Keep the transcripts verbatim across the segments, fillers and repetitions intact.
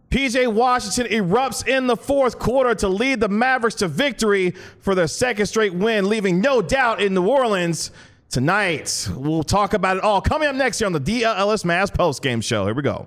P J Washington erupts in the fourth quarter to lead the Mavericks to victory for their second straight win, leaving no doubt in New Orleans tonight. We'll talk about it all coming up next here on the D L L S Mavs postgame show. Here we go.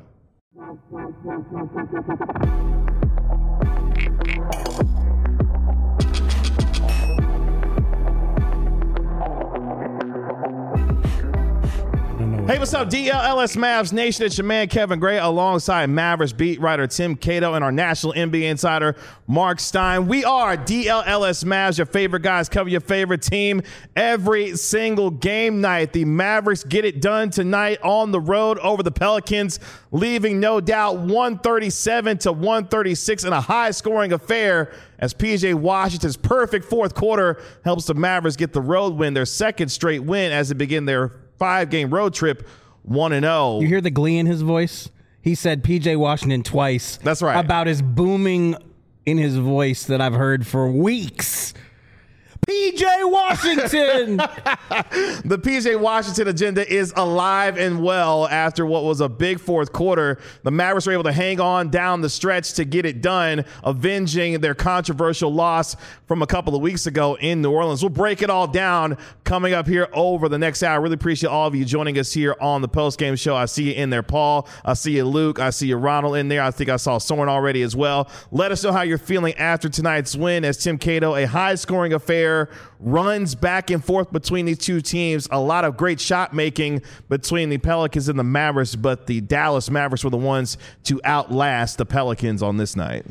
Hey, what's up, D L L S Mavs Nation? It's your man, Kevin Gray, alongside Mavericks beat writer Tim Cato and our national N B A insider, Mark Stein. We are D L L S Mavs, your favorite guys, cover your favorite team every single game night. The Mavericks get it done tonight on the road over the Pelicans, leaving no doubt one thirty-seven to one thirty-six in a high-scoring affair as P J Washington's perfect fourth quarter helps the Mavericks get the road win, their second straight win as they begin their five-game road trip, one and oh. You hear the glee in his voice? He said P J Washington twice. That's right. About as booming in his voice that I've heard for weeks. P J Washington! The P J Washington agenda is alive and well after what was a big fourth quarter. The Mavericks were able to hang on down the stretch to get it done, avenging their controversial loss from a couple of weeks ago in New Orleans. We'll break it all down coming up here over the next hour. Really appreciate all of you joining us here on the postgame show. I see you in there, Paul. I see you, Luke. I see you, Ronald, in there. I think I saw Soren already as well. Let us know how you're feeling after tonight's win as Tim Cato, a high-scoring affair, runs back and forth between these two teams. A lot of great shot making between the Pelicans and the Mavericks, but the Dallas Mavericks were the ones to outlast the Pelicans on this night.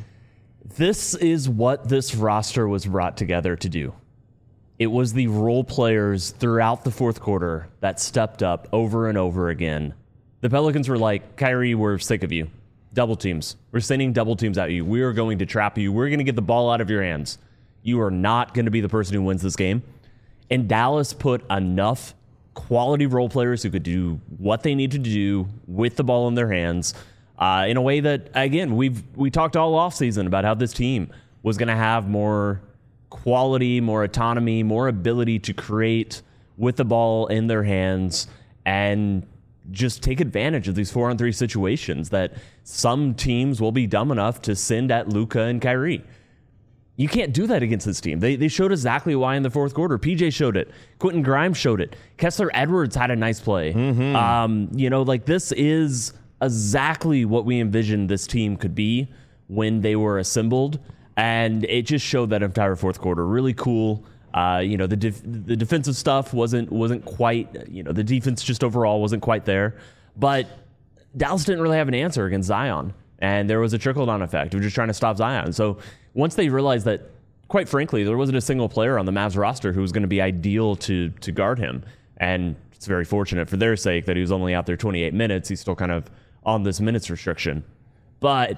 This is what this roster was brought together to do. It was the role players throughout the fourth quarter that stepped up over and over again. The Pelicans were like, Kyrie, we're sick of you. Double teams. We're sending double teams at you. We are going to trap you. We're going to get the ball out of your hands. You are not going to be the person who wins this game. And Dallas put enough quality role players who could do what they need to do with the ball in their hands uh, in a way that, again, we've we talked all offseason about how this team was going to have more quality, more autonomy, more ability to create with the ball in their hands and just take advantage of these four-on-three situations that some teams will be dumb enough to send at Luka and Kyrie. You can't do that against this team. They they showed exactly why in the fourth quarter. P J showed it. Quentin Grimes showed it. Kessler Edwards had a nice play. Mm-hmm. Um, you know, like this is exactly what we envisioned this team could be when they were assembled. And it just showed that entire fourth quarter. Really cool. Uh, you know, the def- the defensive stuff wasn't wasn't quite, you know, the defense just overall wasn't quite there. But Dallas didn't really have an answer against Zion. And there was a trickle-down effect of just trying to stop Zion. So once they realized that, quite frankly, there wasn't a single player on the Mavs roster who was going to be ideal to to guard him. And it's very fortunate for their sake that he was only out there twenty-eight minutes. He's still kind of on this minutes restriction. But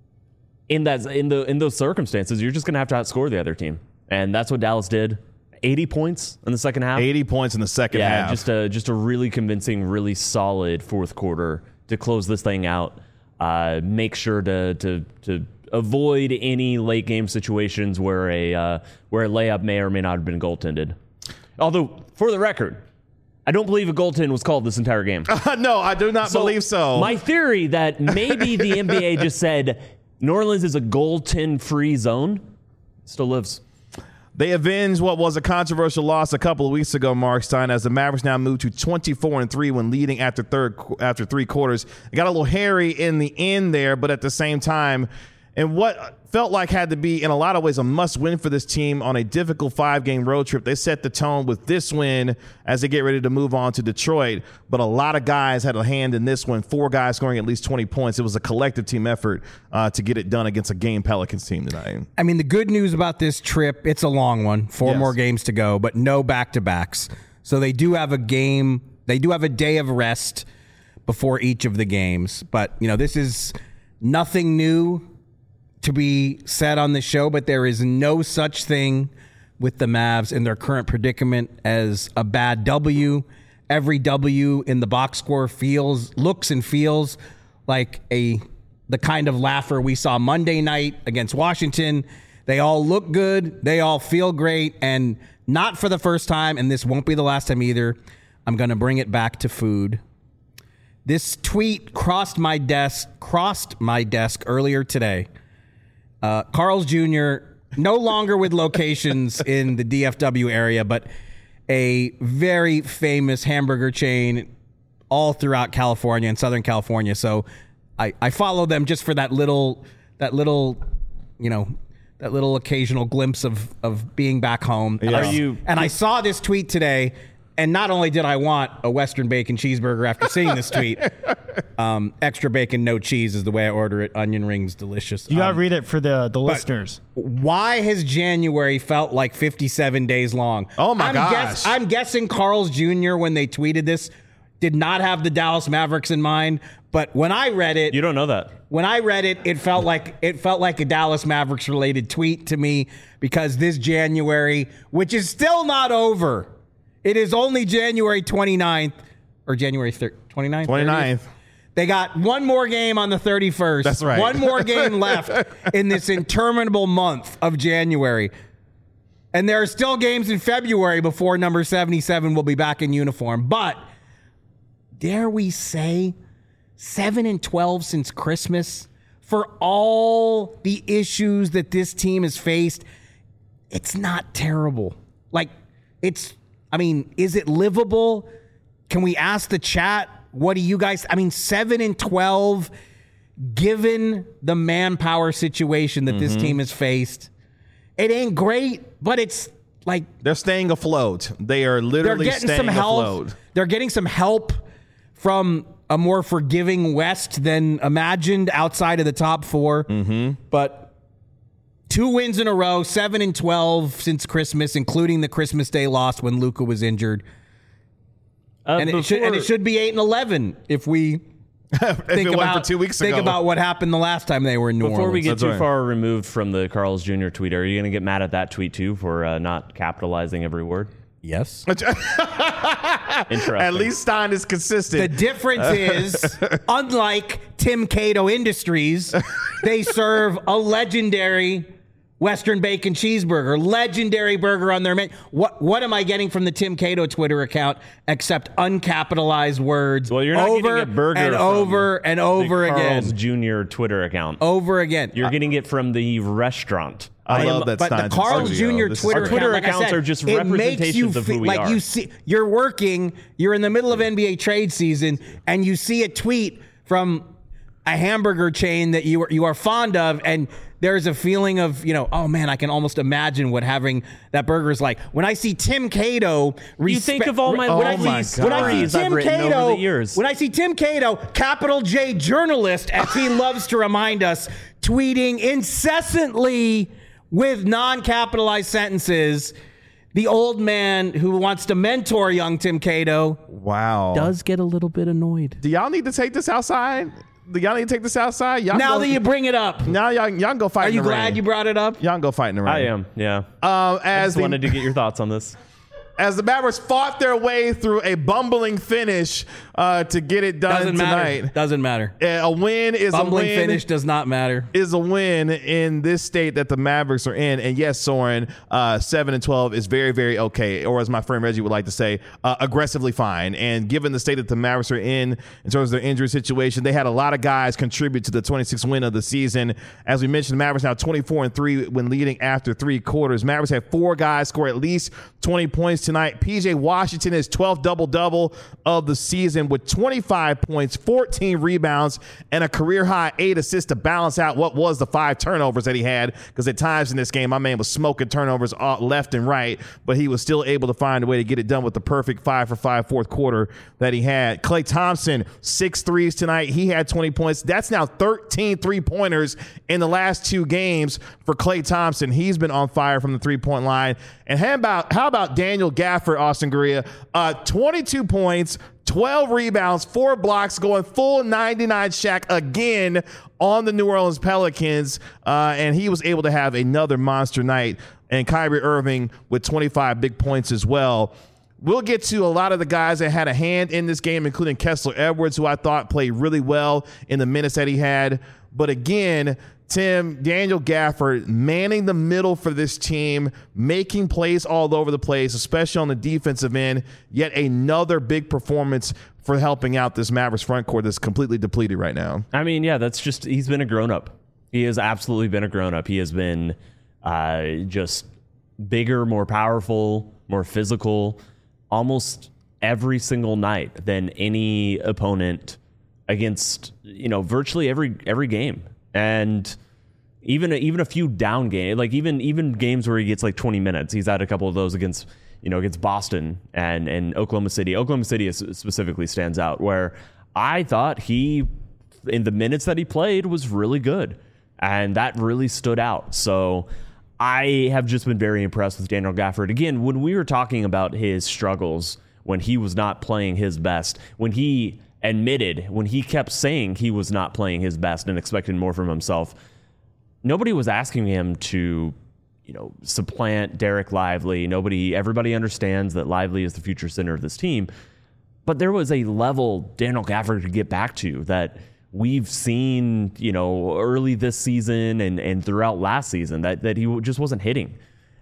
in that in the in those circumstances, you're just going to have to outscore the other team. And that's what Dallas did. eighty points in the second half. eighty points in the second yeah, half. Yeah, just a, just a really convincing, really solid fourth quarter to close this thing out. Uh, make sure to to to avoid any late game situations where a uh, where a layup may or may not have been goaltended. Although, for the record, I don't believe a goaltend was called this entire game. Uh, no, I do not so believe so. My theory that maybe the N B A just said New Orleans is a goaltend-free zone still lives. They avenged what was a controversial loss a couple of weeks ago, Mark Stein, as the Mavericks now move to twenty-four and three when leading after third after three quarters. It got a little hairy in the end there, but at the same time, and what felt like had to be, in a lot of ways, a must-win for this team on a difficult five-game road trip. They set the tone with this win as they get ready to move on to Detroit. But a lot of guys had a hand in this one, four guys scoring at least twenty points. It was a collective team effort uh, to get it done against a game Pelicans team tonight. I mean, the good news about this trip, it's a long one, four yes. more games to go, but no back-to-backs. So they do have a game, they do have a day of rest before each of the games. But, you know, this is nothing new to be said on the show, but there is no such thing with the Mavs in their current predicament as a bad W. Every W in the box score feels, looks and feels like a the kind of laugher we saw Monday night against Washington. They all look good. They all feel great. And not for the first time, and this won't be the last time either, I'm going to bring it back to food. This tweet crossed my desk, crossed my desk earlier today. Uh, Carl's Junior, no longer with locations in the D F W area, but a very famous hamburger chain all throughout California and Southern California. So I, I follow them just for that little, that little, you know, that little occasional glimpse of, of being back home. Yeah. And, I, Are you- and I saw this tweet today, and not only did I want a Western bacon cheeseburger after seeing this tweet, um, extra bacon, no cheese is the way I order it. Onion rings, delicious. You gotta Um, read it for the the listeners. Why has January felt like fifty-seven days long? Oh, my I'm gosh. I'm guessing Carl's Junior, when they tweeted this, did not have the Dallas Mavericks in mind. But when I read it, You don't know that. when I read it, it felt like it felt like a Dallas Mavericks related tweet to me, because this January, which is still not over, it is only January twenty-ninth or January twenty-ninth. twenty-ninth. They got one more game on the thirty-first. That's right. One more game left in this interminable month of January. And there are still games in February before number seventy-seven will be back in uniform. But dare we say seven and twelve since Christmas, for all the issues that this team has faced, it's not terrible. Like, it's, I mean, is it livable? Can we ask the chat? What do you guys, I mean, seven and twelve, given the manpower situation that this team has faced, it ain't great, but it's like They're staying afloat. They are they're literally getting staying some help. afloat. They're getting some help from a more forgiving West than imagined outside of the top four. Mm-hmm. But two wins in a row, seven and twelve since Christmas, including the Christmas Day loss when Luka was injured. Uh, And it, should, and it should be eight and eleven if we if think it about went for two weeks think ago. about what happened the last time they were in New Before Orleans. we get That's too right. far removed from the Carl's Junior tweet, are you going to get mad at that tweet too for uh, not capitalizing every word? Yes. Interesting. At least Stein is consistent. The difference is, unlike Tim Cato Industries, they serve a legendary Western bacon cheeseburger, legendary burger on their menu. What what am I getting from the Tim Cato Twitter account except uncapitalized words? Well, you're not over getting a burger and from over and over the again, Carl's Junior Twitter account. over again. You're getting it from the restaurant. I am- love that But the Stein's in Carl's studio. Junior This is Twitter, Our great. Twitter account, like I accounts said, are just it makes you representations of who fe- we like are. you see, you're working, you're in the middle of N B A trade season, and you see a tweet from a hamburger chain that you are you are fond of, and there's a feeling of, you know, oh man, I can almost imagine what having that burger is like. When I see Tim Cato, You think of all my Oh lovely my when I see stories I've Tim written Cato, over the years. when I see Tim Cato, capital J journalist, as he loves to remind us, tweeting incessantly with non-capitalized sentences, the old man who wants to mentor young Tim Cato Wow. does get a little bit annoyed. Do y'all need to take this outside? Do y'all need to take this outside? Y'all Now go, that you bring it up, now y'all, y'all can go fight are in you the glad rain. you brought it up? Y'all can go fight in the rain. I am, yeah. Um, I as just the, wanted to get your thoughts on this. as the Mavericks fought their way through a bumbling finish uh, to get it done Doesn't tonight. matter. Doesn't matter. Uh, A win is Bumbling a win. finish does not matter. Is a win in this state that the Mavericks are in. And yes, Soren, uh, seven and twelve is very, very okay. Or as my friend Reggie would like to say, uh, aggressively fine. And given the state that the Mavericks are in, in terms of their injury situation, they had a lot of guys contribute to the twenty-sixth win of the season. As we mentioned, the Mavericks now twenty-four and three when leading after three quarters. Mavericks had four guys score at least twenty points tonight. P J Washington is twelfth double-double of the season with twenty-five points, fourteen rebounds, and a career-high eight assists to balance out what was the five turnovers that he had, because at times in this game, my man was smoking turnovers left and right, but he was still able to find a way to get it done with the perfect five for five fourth quarter that he had. Klay Thompson, six threes tonight. He had twenty points. That's now thirteen three-pointers in the last two games for Klay Thompson. He's been on fire from the three-point line. And how about, how about Daniel Gafford, Austin Guerrilla? Uh, twenty-two points, twelve rebounds, four blocks, going full ninety-nine Shaq again on the New Orleans Pelicans. Uh, and he was able to have another monster night. And Kyrie Irving with twenty-five big points as well. We'll get to a lot of the guys that had a hand in this game, including Kessler Edwards, who I thought played really well in the minutes that he had. But again, Tim, Daniel Gafford manning the middle for this team, making plays all over the place, especially on the defensive end. Yet another big performance for helping out this Mavericks front court that's completely depleted right now. I mean, yeah, that's just, he's been a grown-up. He has absolutely been a grown-up. He has been uh, just bigger, more powerful, more physical, almost every single night than any opponent against, you know, virtually every every game. And even even a few down games, like even even games where he gets like twenty minutes. He's had a couple of those against, you know, against Boston and, and Oklahoma City. Oklahoma City is, specifically stands out, where I thought he, in the minutes that he played, was really good. And that really stood out. So I have just been very impressed with Daniel Gafford. Again, when we were talking about his struggles, when he was not playing his best, when he admitted, when he kept saying he was not playing his best and expected more from himself, nobody was asking him to, you know, supplant Derek Lively. Nobody, everybody understands that Lively is the future center of this team. But there was a level Daniel Gafford could get back to that we've seen, you know, early this season and, and throughout last season that, that he just wasn't hitting.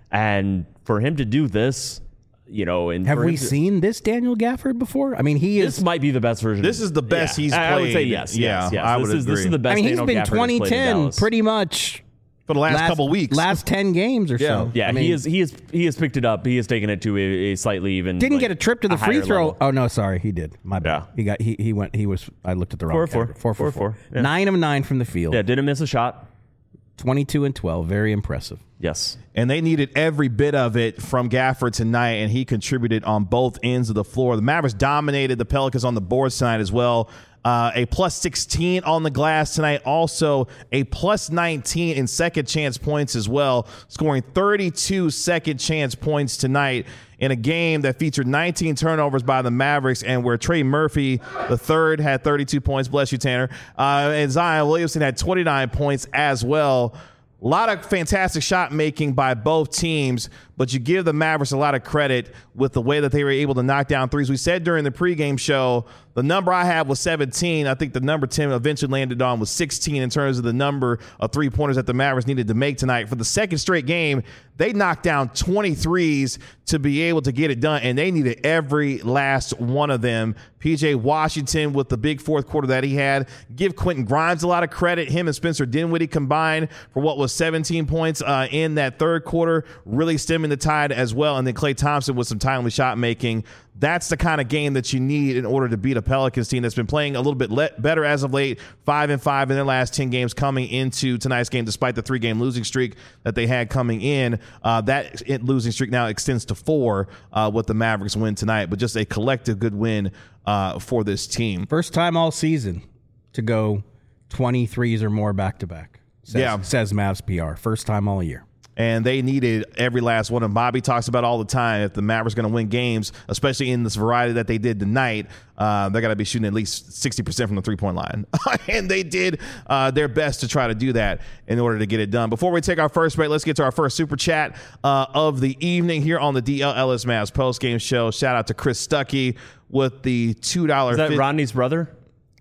And for him to do this, you know, and have we to, seen this Daniel Gafford before? I mean, he this is. might be the best version. This is the best yeah, he's I, played. I would say yes. Yeah, yes, yes. I this would is agree. this is the best. I mean, he's Daniel been Gafford has twenty played in ten Dallas. pretty much for the last, last couple weeks. last ten games or Yeah. so. Yeah, I mean, he is. He is. He has picked it up. He has taken it to a, a slightly even. didn't like, get a trip to the a free higher throw. level. Oh no, sorry, he did. My bad. Yeah. He got. He he went. He was. I looked at the wrong. Four, four. category. four, four, Four, four. four. Yeah. Nine of nine from the field. Yeah, didn't miss a shot. twenty-two and twelve. Very impressive. Yes. And they needed every bit of it from Gafford tonight, and he contributed on both ends of the floor. The Mavericks dominated the Pelicans on the board side as well. Uh, a plus sixteen on the glass tonight. Also a plus nineteen in second chance points as well, scoring thirty-two second chance points tonight in a game that featured nineteen turnovers by the Mavericks, and where Trey Murphy the third had thirty-two points. Bless you, Tanner. Uh, and Zion Williamson had twenty-nine points as well. A lot of fantastic shot making by both teams, but you give the Mavericks a lot of credit with the way that they were able to knock down threes. We said during the pregame show, the number I had was seventeen. I think the number Tim eventually landed on was sixteen in terms of the number of three-pointers that the Mavericks needed to make tonight. For the second straight game, they knocked down twenty threes to be able to get it done, and they needed every last one of them. P J Washington with the big fourth quarter that he had. Give Quentin Grimes a lot of credit. Him and Spencer Dinwiddie combined for what was seventeen points uh, in that third quarter, really stemming the tide as well. And then Klay Thompson with some timely shot making. That's the kind of game that you need in order to beat a Pelicans team that's been playing a little bit le- better as of late, five and five in their last ten games coming into tonight's game, despite the three-game losing streak that they had coming in. Uh, that losing streak now extends to four uh, with the Mavericks win tonight, but just a collective good win uh, for this team. First time all season to go twenty-threes or more back to back. Says, Yeah. says Mavs P R. First time all year. And they needed every last one. And Bobby talks about all the time, if the Mavericks going to win games, especially in this variety that they did tonight, uh, they got to be shooting at least sixty percent from the three-point line. And they did uh, their best to try to do that in order to get it done. Before we take our first break, let's get to our first super chat uh, of the evening here on the D L Ellis Mavs postgame show. Shout out to Chris Stuckey with the two dollars. Is that Rodney's brother?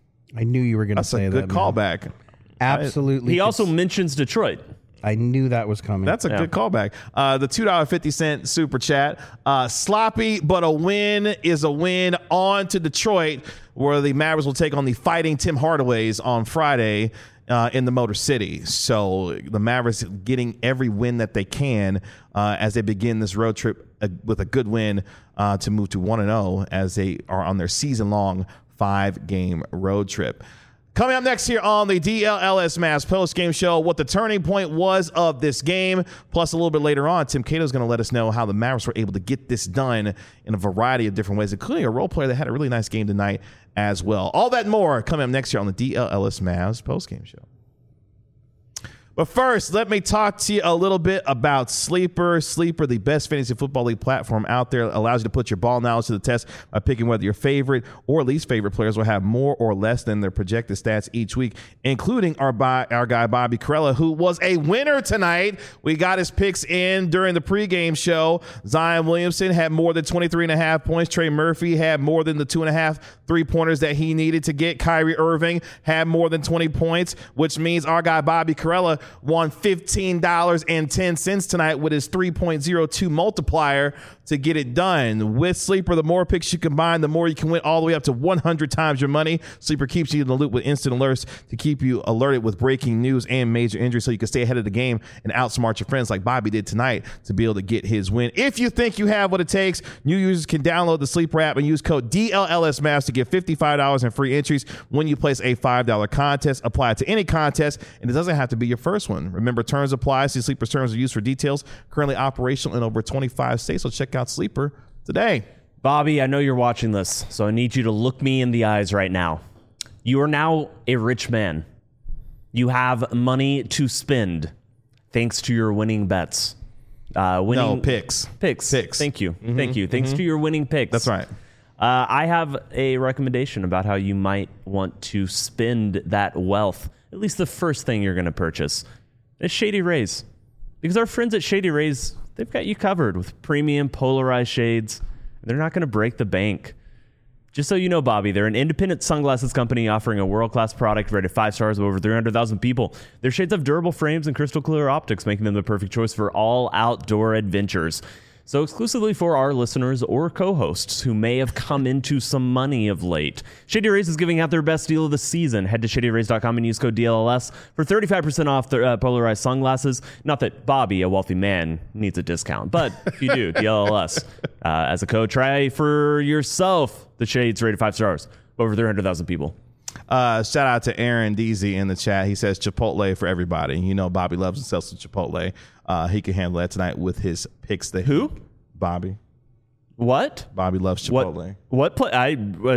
I knew you were going to That's say a good that. callback. Man. Absolutely. He also mentions Detroit. I knew that was coming. That's a Yeah. good callback. Uh, the two dollars and fifty cents super chat. Uh, sloppy, but a win is a win. On to Detroit, where the Mavericks will take on the Fighting Tim Hardaways on Friday uh, in the Motor City. So the Mavericks getting every win that they can uh, as they begin this road trip uh, with a good win uh, to move to one and oh as they are on their season-long five-game road trip. Coming up next here on the D L L S Mavs post-game show, what the turning point was of this game. Plus, a little bit later on, Tim Cato is going to let us know how the Mavericks were able to get this done in a variety of different ways, including a role player that had a really nice game tonight as well. All that and more coming up next here on the D L L S Mavs post-game show. But first, let me talk to you a little bit about Sleeper. Sleeper, the best fantasy football league platform out there, allows you to put your ball knowledge to the test by picking whether your favorite or least favorite players will have more or less than their projected stats each week, including our bi- our guy Bobby Karalla, who was a winner tonight. We got his picks in during the pregame show. Zion Williamson had more than twenty-three and a half points. Trey Murphy had more than the two and a half three-pointers that he needed to get. Kyrie Irving had more than twenty points, which means our guy Bobby Karalla won fifteen dollars and ten cents tonight with his three point oh two multiplier to get it done. With Sleeper, the more picks you combine, the more you can win, all the way up to one hundred times your money. Sleeper keeps you in the loop with instant alerts to keep you alerted with breaking news and major injuries so you can stay ahead of the game and outsmart your friends like Bobby did tonight to be able to get his win. If you think you have what it takes, new users can download the Sleeper app and use code D L L S Maps to get fifty-five dollars in free entries when you place a five dollar contest. Apply it to any contest, and it doesn't have to be your first one. Remember, terms apply. See Sleeper's terms are used for details. Currently operational in over twenty-five states, so check out Sleeper today. Bobby, I know you're watching this, so I need you to look me in the eyes right now. You are now a rich man. You have money to spend thanks to your winning bets. Uh, winning No, picks. Picks. Picks. Thank you. Mm-hmm, Thank you. Thanks mm-hmm. to your winning picks. That's right. Uh, I have a recommendation about how you might want to spend that wealth, at least the first thing you're going to purchase. It's Shady Rays. Because our friends at Shady Rays, they've got you covered with premium polarized shades. They're not going to break the bank. Just so you know, Bobby, they're an independent sunglasses company offering a world-class product rated five stars with over three hundred thousand people. Their shades have durable frames and crystal clear optics, making them the perfect choice for all outdoor adventures. So exclusively for our listeners or co-hosts who may have come into some money of late, Shady Rays is giving out their best deal of the season. Head to shady rays dot com and use code D L L S for thirty-five percent off their uh, polarized sunglasses. Not that Bobby, a wealthy man, needs a discount, but if you do, D L L S. Uh, as a code, try for yourself the shades rated five stars. Over three hundred thousand people. Uh, shout out to Aaron Deasy in the chat. He says Chipotle for everybody. You know Bobby loves himself some Chipotle. Uh, he can handle that tonight with his picks. That Who? He, Bobby. What? Bobby loves Chipotle. What? What pla- I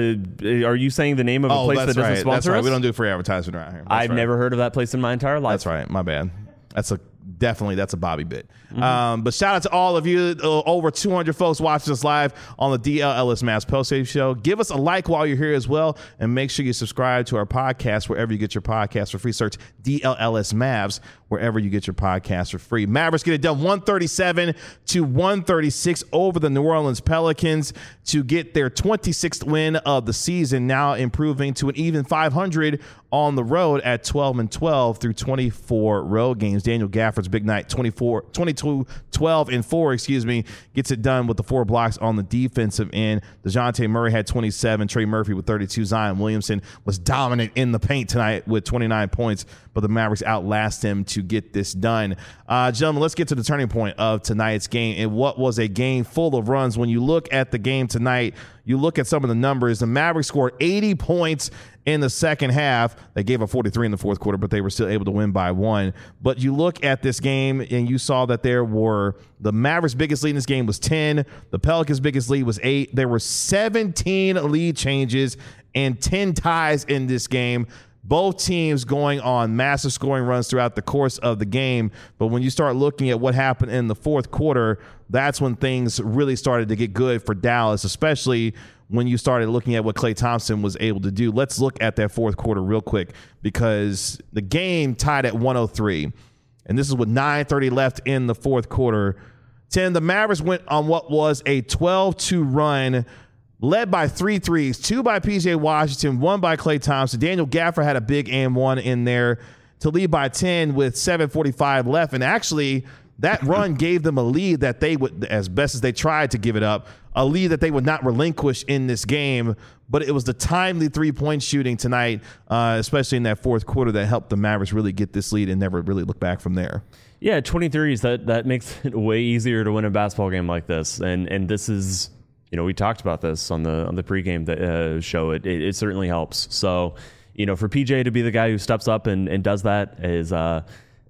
uh, are you saying the name of a Oh, place that's that doesn't right. sponsor That's right. us? We don't do free advertisement around here. That's I've right. never heard of that place in my entire life. That's right. My bad. That's a definitely that's a Bobby bit. Mm-hmm. Um, but shout out to all of you, uh, over two hundred folks watching us live on the D L L S Maps Postgame Show. Give us a like while you're here as well, and make sure you subscribe to our podcast wherever you get your podcast for free. Search D L L S Mavs wherever you get your podcast for free. Mavericks get it done one thirty-seven to one thirty-six over the New Orleans Pelicans to get their twenty-sixth win of the season, now improving to an even five hundred on the road at twelve and twelve through twenty-four road games. Daniel Gafford's big night, twenty-four, twenty-two, twelve and four, excuse me, gets it done with the four blocks on the defensive end. DeJounte Murray had twenty-seven, Trey Murphy with thirty-two. Zion Williamson was dominant in the paint tonight with twenty-nine points, but the Mavericks outlast him to get this done. Uh, gentlemen, let's get to the turning point of tonight's game and what was a game full of runs. When you look at the game tonight, you look at some of the numbers. The Mavericks scored eighty points in the second half. They gave up forty-three in the fourth quarter, but they were still able to win by one. But you look at this game and you saw that there were the Mavericks' biggest lead in this game was ten. The Pelicans' biggest lead was eight. There were seventeen lead changes and ten ties in this game. Both teams going on massive scoring runs throughout the course of the game. But when you start looking at what happened in the fourth quarter, that's when things really started to get good for Dallas, especially when you started looking at what Klay Thompson was able to do. Let's look at that fourth quarter real quick, because the game tied at one oh three. And this is with nine thirty left in the fourth quarter. ten, the Mavericks went on what was a twelve two run, led by three threes, two by P J Washington, one by Klay Thompson. Daniel Gafford had a big and one in there to lead by ten with seven forty-five left. And actually, that run gave them a lead that they would, as best as they tried to give it up, a lead that they would not relinquish in this game. But it was the timely three-point shooting tonight, uh, especially in that fourth quarter, that helped the Mavericks really get this lead and never really look back from there. Yeah, twenty-threes, that, that makes it way easier to win a basketball game like this. And and this is, you know, we talked about this on the on the pregame uh, show. It, it it certainly helps. So, you know, for P J to be the guy who steps up and, and does that is uh,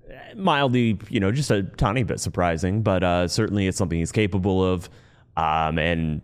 mildly, you know, just a tiny bit surprising, but uh, certainly it's something he's capable of. Um, and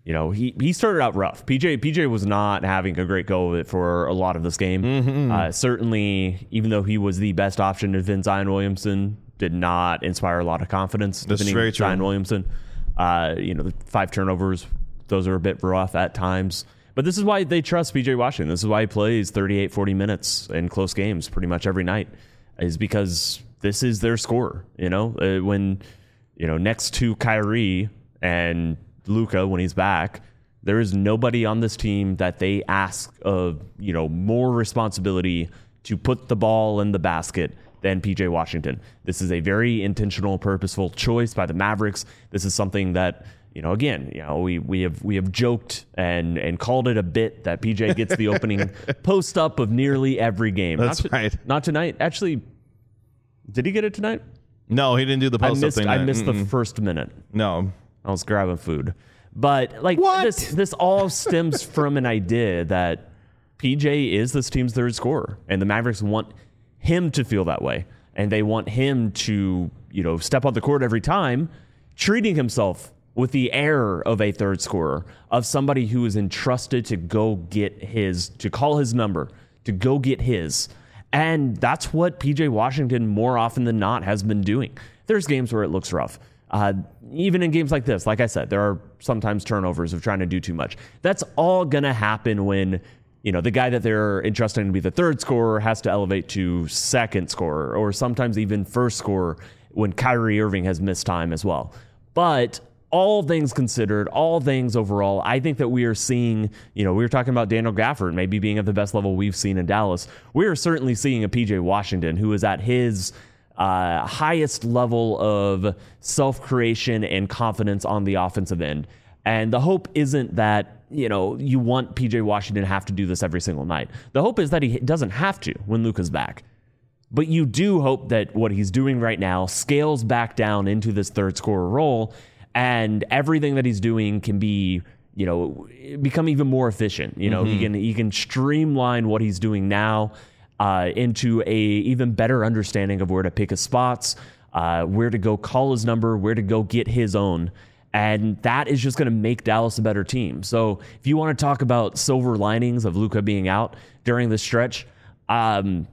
you know, he, he started out rough. P J P J was not having a great go of it for a lot of this game. Mm-hmm. Uh, certainly, even though he was the best option to defend Zion Williamson, did not inspire a lot of confidence defending Zion Williamson. Uh, you know, the five turnovers, those are a bit rough at times. But this is why they trust P J Washington. This is why he plays thirty-eight, forty minutes in close games pretty much every night, is because this is their scorer. You know, uh, when, you know, next to Kyrie and Luka, when he's back, there is nobody on this team that they ask of, you know, more responsibility to put the ball in the basket than P J Washington. This is a very intentional, purposeful choice by the Mavericks. This is something that, you know, again, you know, we we have we have joked and and called it a bit that P J gets the opening post up of nearly every game. That's not to, right. Not tonight. Actually, did he get it tonight? No, he didn't do the post I up missed, thing. I missed Mm-mm. the first minute. No. I was grabbing food. But like What? this this all stems from an idea that P J is this team's third scorer, and the Mavericks want him to feel that way. And they want him to, you know, step on the court every time, treating himself with the air of a third scorer, of somebody who is entrusted to go get his, to call his number, to go get his. And that's what P J Washington more often than not has been doing. There's games where it looks rough. Uh, even in games like this, like I said, there are sometimes turnovers of trying to do too much. That's all going to happen when, you know, the guy that they're entrusting to be the third scorer has to elevate to second scorer, or sometimes even first scorer when Kyrie Irving has missed time as well. But all things considered, all things overall, I think that we are seeing, you know, we were talking about Daniel Gafford maybe being at the best level we've seen in Dallas. We are certainly seeing a P J Washington who is at his uh, highest level of self-creation and confidence on the offensive end. And the hope isn't that, you know, you want P J Washington to have to do this every single night. The hope is that he doesn't have to when Luka's back. But you do hope that what he's doing right now scales back down into this third scorer role, and everything that he's doing can be, you know, become even more efficient. You know, mm-hmm. he can he can streamline what he's doing now uh, into a even better understanding of where to pick his spots, uh, where to go call his number, where to go get his own. And that is just going to make Dallas a better team. So if you want to talk about silver linings of Luka being out during this stretch, um,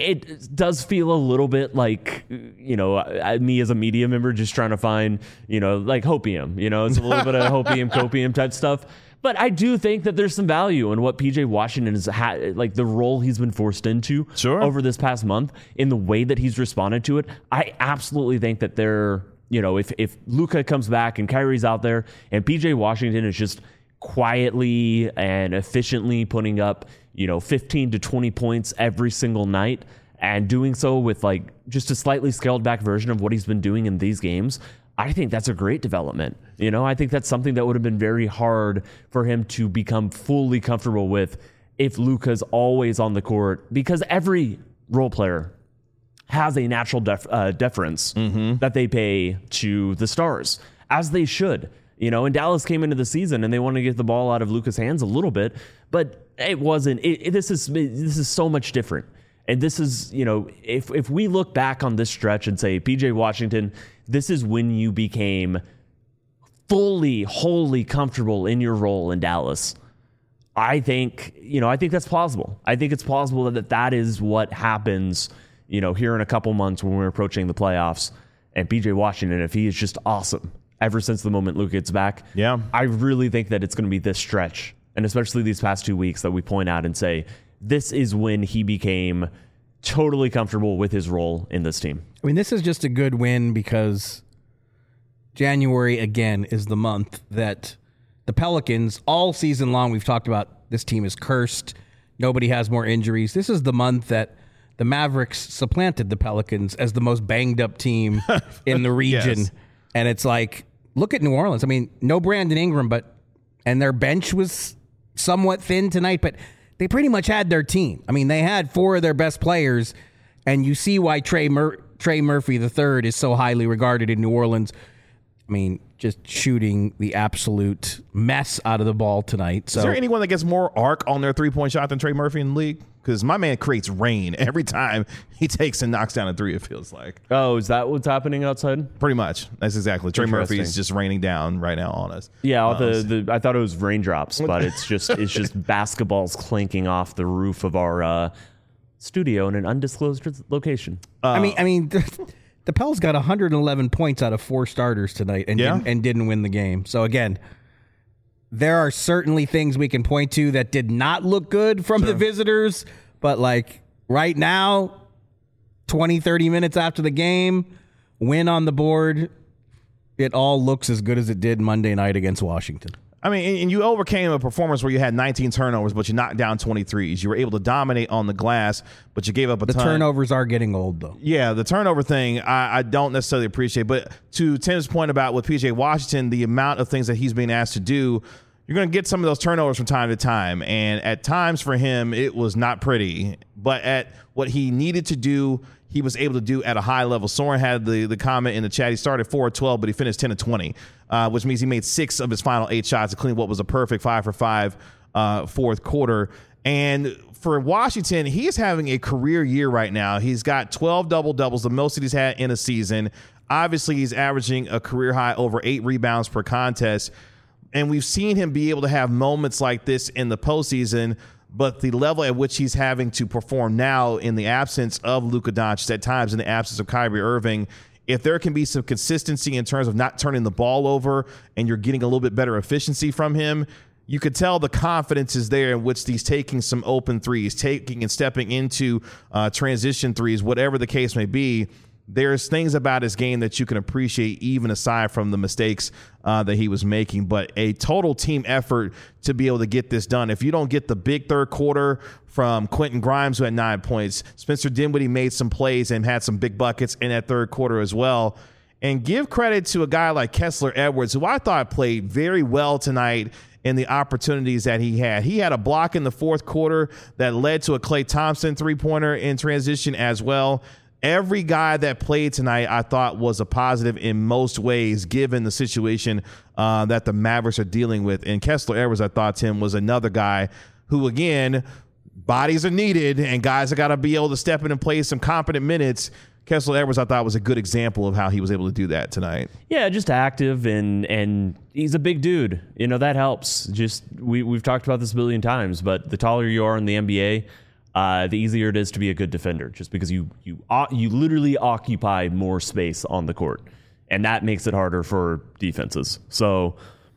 it does feel a little bit like, you know, me as a media member just trying to find, you know, like hopium. You know, it's a little bit of hopium, copium type stuff. But I do think that there's some value in what P J Washington has had, like the role he's been forced into sure. over this past month, in the way that he's responded to it. I absolutely think that they're, you know, if, if Luka comes back and Kyrie's out there and P J Washington is just quietly and efficiently putting up, you know, fifteen to twenty points every single night, and doing so with like just a slightly scaled back version of what he's been doing in these games, I think that's a great development. You know, I think that's something that would have been very hard for him to become fully comfortable with if Luka's always on the court, because every role player has a natural def, uh, deference mm-hmm. that they pay to the stars, as they should. You know, and Dallas came into the season and they wanted to get the ball out of Luka's hands a little bit, but it wasn't. It, it, this is this is so much different. And this is, you know, if if we look back on this stretch and say, P J Washington, this is when you became fully, wholly comfortable in your role in Dallas. I think, you know, I think that's plausible. I think it's plausible that that is what happens, you know, here in a couple months when we're approaching the playoffs. And P J Washington, if he is just awesome ever since the moment Luka gets back, yeah, I really think that it's going to be this stretch, and especially these past two weeks, that we point out and say, this is when he became totally comfortable with his role in this team. I mean, this is just a good win because January, again, is the month that the Pelicans, all season long, we've talked about this team is cursed. Nobody has more injuries. This is the month that the Mavericks supplanted the Pelicans as the most banged up team in the region. Yes. And it's like, look at New Orleans. I mean, no Brandon Ingram, but, and their bench was somewhat thin tonight, but they pretty much had their team. I mean, they had four of their best players, and you see why Trey Mur- Trey Murphy the third is so highly regarded in New Orleans. I mean, just shooting the absolute mess out of the ball tonight. So, is there anyone that gets more arc on their three-point shot than Trey Murphy in the league? because my man creates rain every time he takes and knocks down a three, it feels like. Oh, is that what's happening outside? Pretty much. That's exactly. Trey Murphy is just raining down right now on us. Yeah, all the, the I thought it was raindrops, but it's just it's just basketballs clinking off the roof of our uh, studio in an undisclosed location. Uh, I mean, I mean, the, the Pels got one hundred eleven points out of four starters tonight, and yeah. didn't, and didn't win the game. So again, there are certainly things we can point to that did not look good from sure. the visitors, but like right now, twenty, thirty minutes after the game, win on the board, it all looks as good as it did Monday night against Washington. I mean, and you overcame a performance where you had nineteen turnovers, but you knocked down twenty-threes. You were able to dominate on the glass, but you gave up a the ton. The turnovers are getting old, though. Yeah, the turnover thing, I, I don't necessarily appreciate. But to Tim's point about with P J Washington, the amount of things that he's being asked to do, you're going to get some of those turnovers from time to time. And at times for him, it was not pretty. But at what he needed to do, he was able to do at a high level. Soren had the, the comment in the chat. He started four of twelve, but he finished ten of twenty, uh, which means he made six of his final eight shots to clean what was a perfect five for five uh, fourth quarter. And for Washington, he is having a career year right now. He's got twelve double-doubles, the most that he's had in a season. Obviously, he's averaging a career high over eight rebounds per contest. And we've seen him be able to have moments like this in the postseason, but the level at which he's having to perform now in the absence of Luka Doncic, at times in the absence of Kyrie Irving, if there can be some consistency in terms of not turning the ball over and you're getting a little bit better efficiency from him, you could tell the confidence is there in which he's taking some open threes, taking and stepping into uh, transition threes, whatever the case may be. There's things about his game that you can appreciate even aside from the mistakes uh, that he was making, but a total team effort to be able to get this done. If you don't get the big third quarter from Quentin Grimes, who had nine points, Spencer Dinwiddie made some plays and had some big buckets in that third quarter as well. And give credit to a guy like Kessler Edwards, who I thought played very well tonight in the opportunities that he had. He had a block in the fourth quarter that led to a Klay Thompson three-pointer in transition as well. Every guy that played tonight, I thought, was a positive in most ways, given the situation uh, that the Mavericks are dealing with. And Kessler Edwards, I thought, Tim, was another guy who, again, bodies are needed and guys have got to be able to step in and play some competent minutes. Kessler Edwards, I thought, was a good example of how he was able to do that tonight. Yeah, just active, and and he's a big dude. You know, that helps. Just we, we've talked about this a billion times, but the taller you are in the N B A, Uh, the easier it is to be a good defender, just because you you you literally occupy more space on the court, and that makes it harder for defenses. So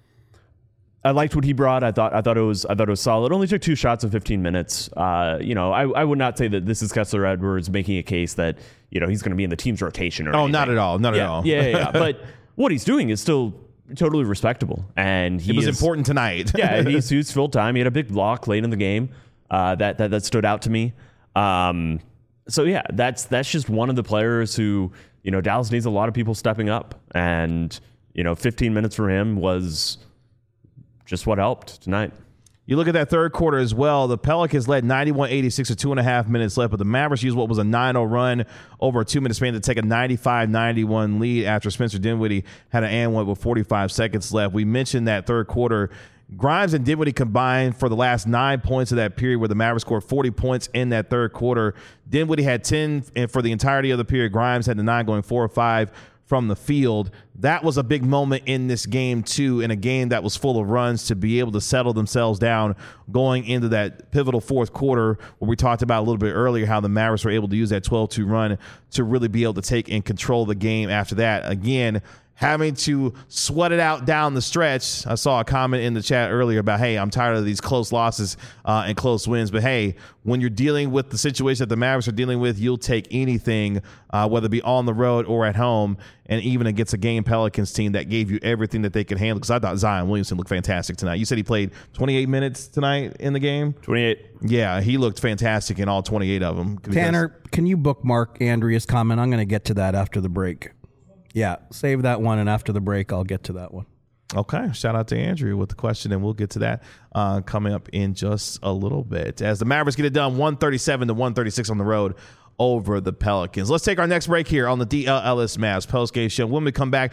I liked what he brought. I thought I thought it was I thought it was solid. Only took two shots in fifteen minutes. Uh, you know, I, I would not say that this is Kessler Edwards making a case that you know he's going to be in the team's rotation or oh, anything. not at all, not yeah, at all. yeah, yeah, yeah. But what he's doing is still totally respectable, and he it was is, important tonight. yeah, he's he's full time. He had a big block late in the game. Uh, that, that that stood out to me. Um, so yeah, that's that's just one of the players who you know Dallas needs a lot of people stepping up, and you know, fifteen minutes for him was just what helped tonight. You look at that third quarter as well. The Pelicans led ninety-one eighty-six with two and a half minutes left, but the Mavericks used what was a nine oh run over a two-minute span to take a ninety-five ninety-one lead after Spencer Dinwiddie had an and one with forty-five seconds left. We mentioned that third quarter. Grimes and Dinwiddie combined for the last nine points of that period, where the Mavericks scored forty points in that third quarter. Dinwiddie had ten for the entirety of the period. Grimes had the nine, going four or five from the field. That was a big moment in this game, too, in a game that was full of runs, to be able to settle themselves down going into that pivotal fourth quarter, where we talked about a little bit earlier how the Mavericks were able to use that twelve two run to really be able to take and control the game after that. Again, having to sweat it out down the stretch. I saw a comment in the chat earlier about, hey, I'm tired of these close losses uh, and close wins. But, hey, when you're dealing with the situation that the Mavericks are dealing with, you'll take anything, uh, whether it be on the road or at home, and even against a game Pelicans team that gave you everything that they could handle. Because I thought Zion Williamson looked fantastic tonight. You said he played twenty-eight minutes tonight in the game? twenty-eight. Yeah, he looked fantastic in all twenty-eight of them. Tanner, can you bookmark Andrea's comment? I'm going to get to that after the break. Yeah, save that one, and after the break, I'll get to that one. Okay, shout out to Andrew with the question, and we'll get to that uh, coming up in just a little bit. As the Mavericks get it done, one thirty-seven to one thirty-six on the road over the Pelicans. Let's take our next break here on the D L Ellis Mavs postgame show. When we come back,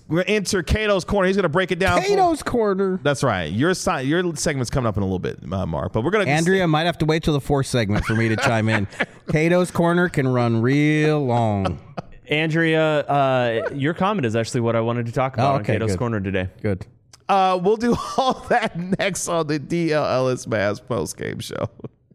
we're gonna enter Cato's Corner. He's going to break it down. Cato's Corner. That's right. Your si- your segment's coming up in a little bit, uh, Mark. But we're going to Andrea might have to wait till the fourth segment for me to chime in. Cato's Corner can run real long. Andrea, uh, your comment is actually what I wanted to talk about Oh, okay, on Cato's good. Corner today. Good. Uh, we'll do all that next on the D L Ellis Mavs postgame show.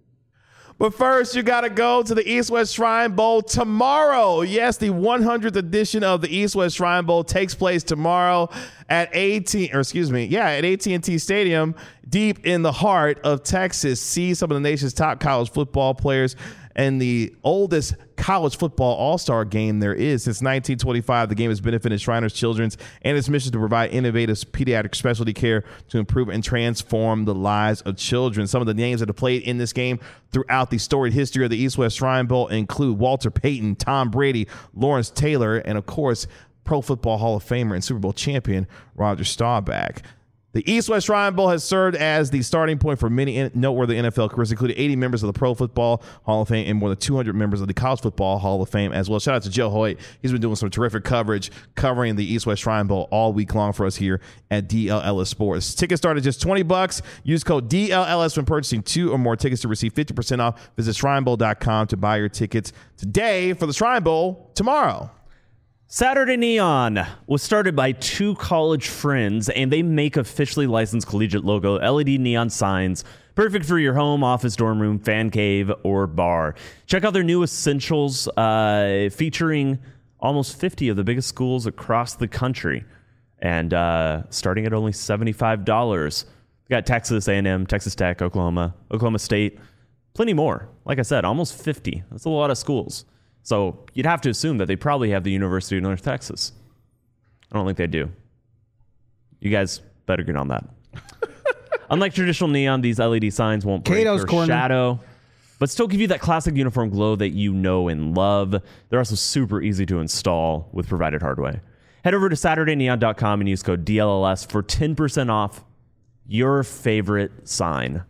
But first, you got to go to the East West Shrine Bowl tomorrow. Yes, the one hundredth edition of the East West Shrine Bowl takes place tomorrow at A T, or excuse me, yeah, at A T and T Stadium, deep in the heart of Texas. See some of the nation's top college football players and the oldest college football all-star game there is. Since nineteen twenty-five, the game has benefited Shriners Children's and its mission to provide innovative pediatric specialty care to improve and transform the lives of children. Some of the names that have played in this game throughout the storied history of the East West Shrine Bowl include Walter Payton, Tom Brady, Lawrence Taylor, and of course, Pro Football Hall of Famer and Super Bowl champion Roger Staubach. The East West Shrine Bowl has served as the starting point for many noteworthy N F L careers, including eighty members of the Pro Football Hall of Fame and more than two hundred members of the College Football Hall of Fame as well. Shout out to Joe Hoyt. He's been doing some terrific coverage covering the East West Shrine Bowl all week long for us here at D L Ellis Sports. Tickets start at just twenty bucks. Use code D L L S when purchasing two or more tickets to receive fifty percent off. Visit shrine bowl dot com to buy your tickets today for the Shrine Bowl tomorrow. Saturday Neon was started by two college friends, and they make officially licensed collegiate logo L E D neon signs, perfect for your home, office, dorm room, fan cave, or bar. Check out their new essentials, uh, featuring almost fifty of the biggest schools across the country, and uh, starting at only seventy-five dollars. We got Texas A and M, Texas Tech, Oklahoma, Oklahoma State, plenty more. Like I said, almost fifty. That's a lot of schools. So you'd have to assume that they probably have the University of North Texas. I don't think they do. You guys better get on that. Unlike traditional neon, these L E D signs won't break Cato's or Corner. shadow, but still give you that classic uniform glow that you know and love. They're also super easy to install with provided hardware. Head over to saturday neon dot com and use code D L L S for ten percent off your favorite sign.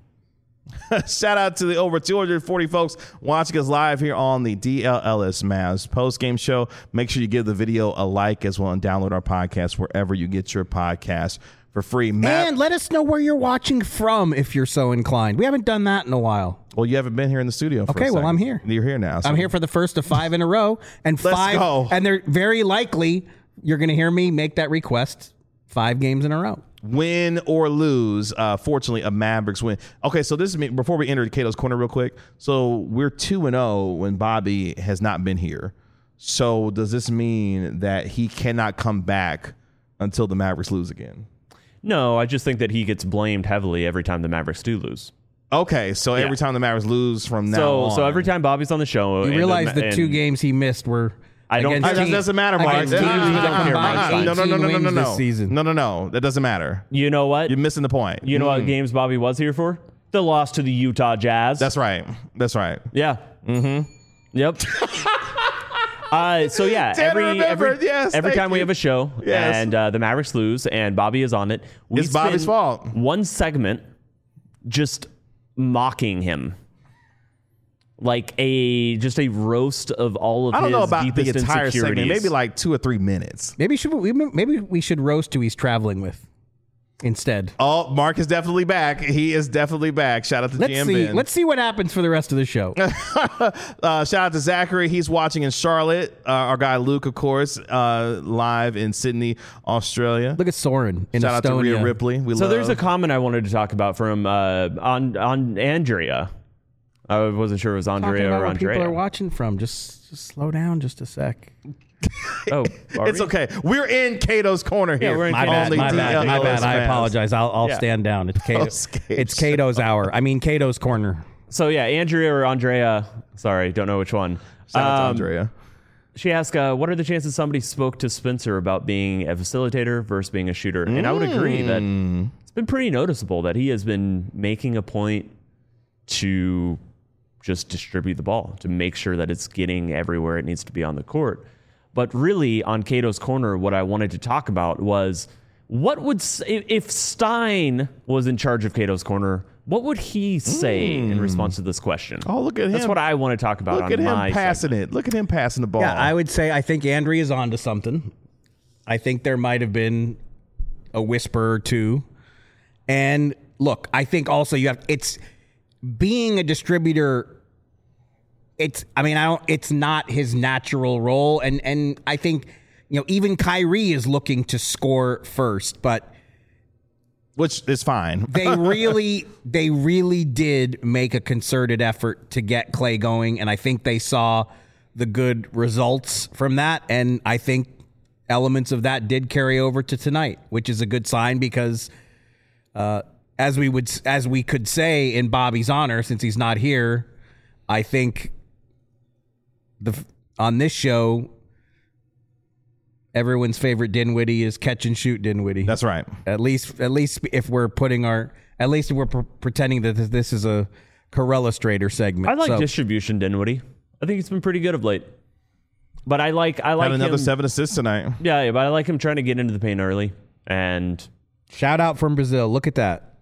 Shout out to the over two hundred forty folks watching us live here on the D L Ellis Mavs post-game show. Make sure you give the video a like as well and download our podcast wherever you get your podcast for free. Matt, And let us know where you're watching from if you're so inclined. We haven't done that in a while. well, you haven't been here in the studio for Okay, a well, second. I'm here. You're here now. so- I'm here for the first of five in a row, and Let's five, go. and they're very likely you're going to hear me make that request five games in a row. Win or lose, uh, fortunately, a Mavericks win. Okay, so this is me. Before we enter Cato's Corner real quick. So we're two and oh when Bobby has not been here. So does this mean that he cannot come back until the Mavericks lose again? No, I just think that he gets blamed heavily every time the Mavericks do lose. Okay, so Yeah. every time the Mavericks lose from now So, on. so every time Bobby's on the show, You and realize the, the two and games he missed were I don't- against I- That teams- doesn't matter, Mike. against Teams teams who that don't care, combined Mike. No, no, no, no, no, no, wins no. this season. No, no, no. That doesn't matter. You know what? You're missing the point. You know what games Bobby was here for? The loss to the Utah Jazz. That's right. That's right. yeah. Mm-hmm. Yep. uh, so yeah, Tanner every remembered. every, Yes, every thank time we you. have a show Yes. and uh, the Mavericks lose and Bobby is on it, we It's Bobby's spend fault. One segment just mocking him. Like a just a roast of all of I don't his know about the deepest entire segment. insecurities. Maybe like two or three minutes. Maybe should we maybe we should roast who he's traveling with instead. Oh, Mark is definitely back. He is definitely back. Shout out to Let's Jam see. Ben. Let's see what happens for the rest of the show. uh, shout out to Zachary. He's watching in Charlotte. Uh, our guy Luke, of course, uh, live in Sydney, Australia. Look at Soren in Shout out to Estonia. Rhea Ripley. We So love. there's a comment I wanted to talk about from uh, on on Andrea. I wasn't sure it was Talking Andrea about or where Andrea. people are watching from. Just, just slow down just a sec. Oh, are It's we? okay. We're in Cato's Corner here. we're in My Cato's bad, my Only bad, my D L bad. I fans. apologize. I'll, I'll Yeah. stand down. It's Cato, escapes. it's Cato's hour. I mean Cato's Corner. So yeah, Andrea or Andrea. Sorry, don't know which one. Shout out to Um, Andrea. She asked, uh, "What are the chances somebody spoke to Spencer about being a facilitator versus being a shooter?" And I would agree that it's been pretty noticeable that he has been making a point to just distribute the ball, to make sure that it's getting everywhere it needs to be on the court. But really, on Cato's Corner, what I wanted to talk about was what would s- if if Stein was in charge of Cato's Corner, what would he say in response to this question? Oh, look at him. That's what I want to talk about Look on at him my passing segment. it. Look at him passing the ball. Yeah, I would say I think Andrea is on to something. I think there might have been a whisper or two. And look, I think also you have it's being a distributor. It's I mean I don't. It's not his natural role, and and I think you know even Kyrie is looking to score first, but which is fine. they really they really did make a concerted effort to get Klay going, and I think they saw the good results from that, and I think elements of that did carry over to tonight, which is a good sign because, uh, as we would, as we could say in Bobby's honor, since he's not here, I think the on this show, everyone's favorite Dinwiddie is catch and shoot Dinwiddie. That's right. At least, at least if we're putting our, at least if we're pr- pretending that this is a Corellustrator segment. I like so, distribution Dinwiddie. I think he's been pretty good of late. But I like I like Had another him, seven assists tonight. Yeah, yeah, but I like him trying to get into the paint early. And shout out from Brazil. Look at that.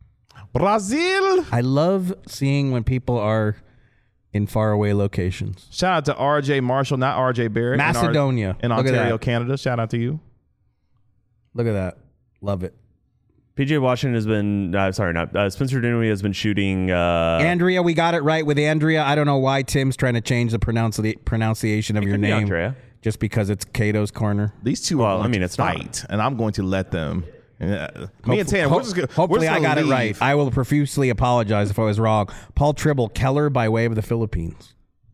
Brazil. I love seeing when people are in faraway locations. Shout out to R J Marshall, not R J Barrett. Macedonia. In, Ar- in Ontario, Canada. Shout out to you. Look at that. Love it. P J Washington has been, uh, sorry, not uh, Spencer Dinwiddie has been shooting. Uh, Andrea, we got it right with Andrea. I don't know why Tim's trying to change the pronuncia- pronunciation of it your could be name. Andrea. Just because it's Cato's corner. These two Well, are going I mean, to it's not. fight, and I'm going to let them. Uh, me and Tanner, Ho- we're just gonna, hopefully we're just I got gonna it right. leave. I will profusely apologize if I was wrong. Paul Tribble, Keller by way of the Philippines.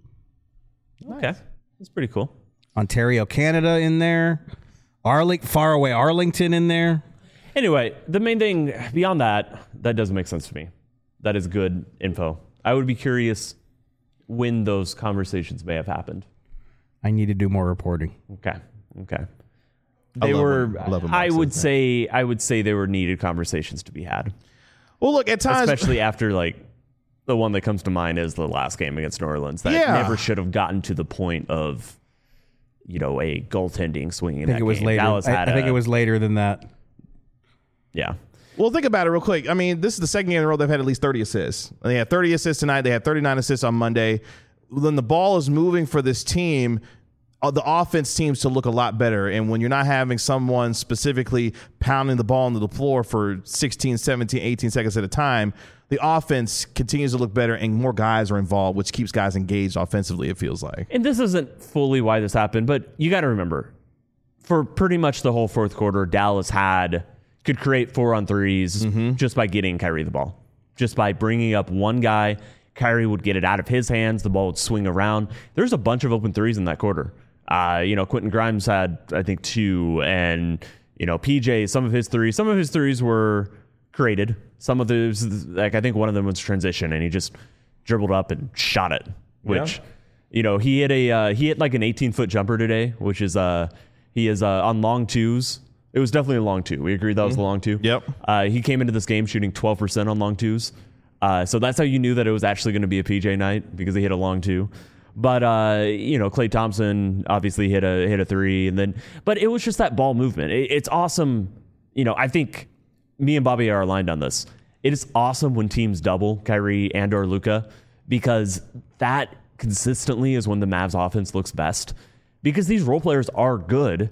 Okay. That's pretty cool. Ontario, Canada in there. Arling, far away Arlington in there. Anyway, the main thing beyond that, that doesn't make sense to me. That is good info. I would be curious when those conversations may have happened. I need to do more reporting. Okay. Okay. I They love were when- I love when I Mark says would that. say I would say they were needed conversations to be had. Well, look, at times, Especially after like the one that comes to mind is the last game against New Orleans. That Yeah. never should have gotten to the point of, you know, a goaltending swing in I think that it was game. later. Dallas I, had I think a- it was later than that. Yeah. well, think about it real quick. I mean, this is the second game in a row they've had at least thirty assists. They had thirty assists tonight. They had thirty-nine assists on Monday. When the ball is moving for this team, uh, the offense seems to look a lot better. And when you're not having someone specifically pounding the ball into the floor for sixteen, seventeen, eighteen seconds at a time, the offense continues to look better and more guys are involved, which keeps guys engaged offensively, it feels like. And this isn't fully why this happened, but you got to remember, for pretty much the whole fourth quarter, Dallas had could create four on threes Mm-hmm. just by getting Kyrie the ball. Just by bringing up one guy, Kyrie would get it out of his hands, the ball would swing around. There's a bunch of open threes in that quarter. Uh, you know, Quentin Grimes had, I think, two, and, you know, P J, some of his threes, some of his threes were created. Some of those, like, I think one of them was transition, and he just dribbled up and shot it, which, Yeah. you know, he hit a, uh, he hit like an eighteen-foot jumper today, which is, uh, he is uh, on long twos. It was definitely a long two. We agreed that was the long two. Yep. Uh, he came into this game shooting twelve percent on long twos. Uh, so that's how you knew that it was actually going to be a P J night, because he hit a long two. But, uh, you know, Klay Thompson obviously hit a hit a three. And then, but it was just that ball movement. It, it's awesome. You know, I think me and Bobby are aligned on this. It is awesome when teams double Kyrie and or Luka, because that consistently is when the Mavs offense looks best, because these role players are good.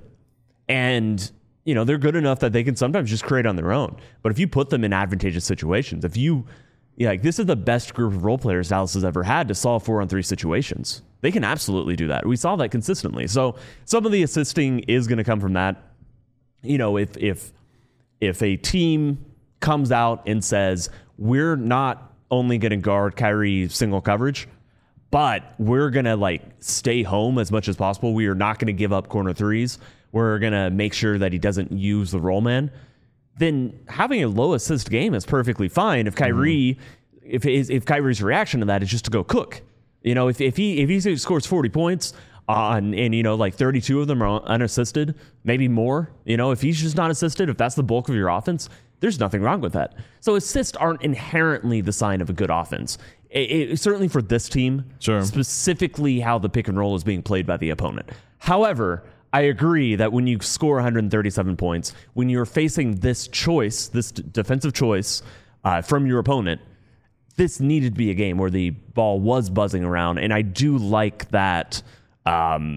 And, you know, they're good enough that they can sometimes just create on their own. But if you put them in advantageous situations, if you, yeah, like this is the best group of role players Dallas has ever had to solve four on three situations. They can absolutely do that. We saw that consistently. So some of the assisting is going to come from that. You know, if if if a team comes out and says, we're not only going to guard Kyrie single coverage, but we're going to like stay home as much as possible. We are not going to give up corner threes. We're going to make sure that he doesn't use the roll man. Then having a low assist game is perfectly fine. If Kyrie, mm-hmm. if his, if Kyrie's reaction to that is just to go cook, you know, if, if he if he scores forty points on and you know like thirty-two of them are unassisted, maybe more, you know, if he's just not assisted, if that's the bulk of your offense, there's nothing wrong with that. So assists aren't inherently the sign of a good offense. It, it, certainly for this team, Sure. specifically how the pick and roll is being played by the opponent. However, I agree that when you score one hundred thirty-seven points, when you're facing this choice, this d- defensive choice uh, from your opponent, this needed to be a game where the ball was buzzing around. And I do like that, um,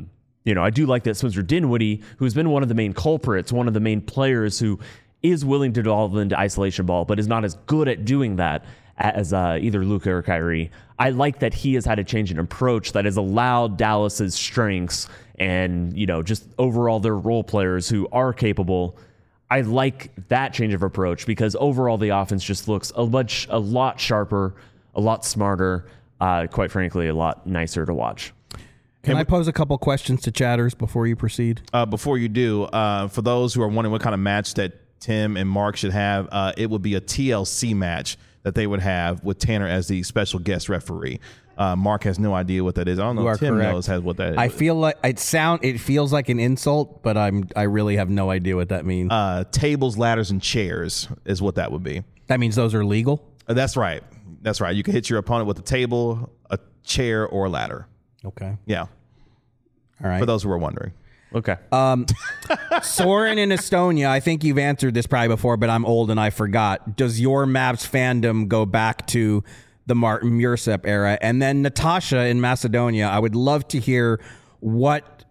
you know, I do like that Spencer Dinwiddie, who's been one of the main culprits, one of the main players who is willing to delve into isolation ball, but is not as good at doing that as uh, either Luka or Kyrie. I like that he has had a change in approach that has allowed Dallas's strengths and, you know, just overall their role players who are capable. I like that change of approach because overall the offense just looks a much, a lot sharper, a lot smarter, uh, quite frankly, a lot nicer to watch. Can I pose a couple questions to chatters before you proceed? Uh, before you do, uh, for those who are wondering what kind of match that Tim and Mark should have, uh, it would be a T L C match that they would have with Tanner as the special guest referee. Uh, Mark has no idea what that is. I don't know if Tim correct. knows has what that is. I feel like it sound it feels like an insult, but I'm I really have no idea what that means. Uh, tables, ladders, and chairs is what that would be. That means those are legal? Uh, that's right. That's right. You can hit your opponent with a table, a chair, or a ladder. Okay. Yeah. All right. For those who are wondering. Okay. Um, Soren in Estonia, I think you've answered this probably before, but I'm old and I forgot. Does your Mavs fandom go back to the Martin Mursep era? And then Natasha in Macedonia, I would love to hear what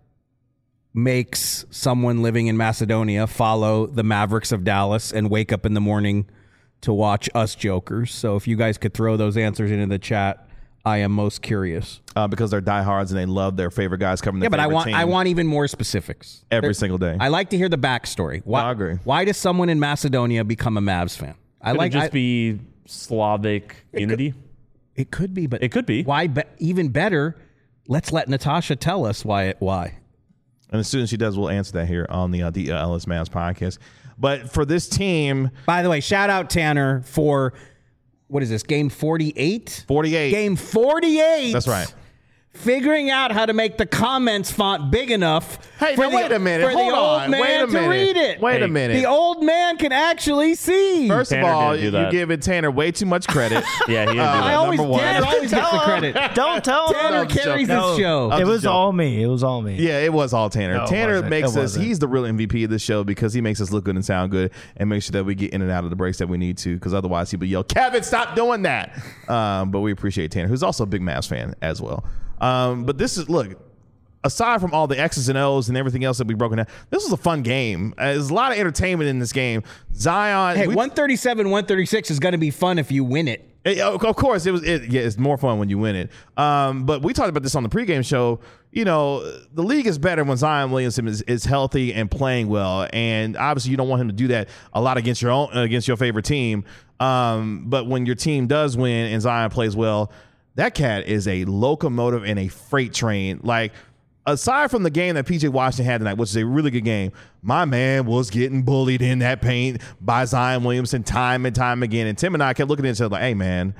makes someone living in Macedonia follow the Mavericks of Dallas and wake up in the morning to watch us jokers. So if you guys could throw those answers into the chat, I am most curious. Uh, because they're diehards and they love their favorite guys covering their yeah, but I want team I want even more specifics every there, single day. I like to hear the backstory. Why, no, I agree. Why does someone in Macedonia become a Mavs fan? I Could like it just I, be Slavic it unity. Could, it could be, but it could be. Why? Be, even better, let's let Natasha tell us why. It, why? And as soon as she does, we'll answer that here on the uh, the uh, Ellis Mavs podcast. But for this team, by the way, shout out Tanner for. What is this, game forty-eight? forty-eight. Game forty-eight. That's right. Figuring out how to make the comments font big enough hey, for now the, wait a minute. for Hold the old on. man wait a minute. to read it. Wait hey, a minute. The old man can actually see. First Tanner of all, didn't do you're that. giving Tanner way too much credit. yeah, he didn't Uh, do that. I always, Number one. Tanner always gets the credit. Don't tell him. Tanner I'm just carries joking. this show. I'm It just was joking. all me. It was all me. Yeah, it was all Tanner. No, it Tanner wasn't. makes It us, wasn't. he's the real M V P of this show because he makes us look good and sound good and make sure that we get in and out of the breaks that we need to because otherwise he would yell, Kevin, stop doing that. Um, but we appreciate Tanner, who's also a big Mavs fan as well. Um, but this is, look, aside from all the X's and O's and everything else that we've broken down, this was a fun game. Uh, there's a lot of entertainment in this game. Zion. Hey, we, one thirty-seven, one thirty-six is going to be fun if you win it. It, of course, it was. It, yeah, it's more fun when you win it. Um, but we talked about this on the pregame show. You know, the league is better when Zion Williamson is, is healthy and playing well. And obviously, you don't want him to do that a lot against your own against your favorite team. Um, but when your team does win and Zion plays well, that cat is a locomotive and a freight train. Like, aside from the game that P J Washington had tonight, which is a really good game, my man was getting bullied in that paint by Zion Williamson time and time again. And Tim and I kept looking at each other like, hey, man,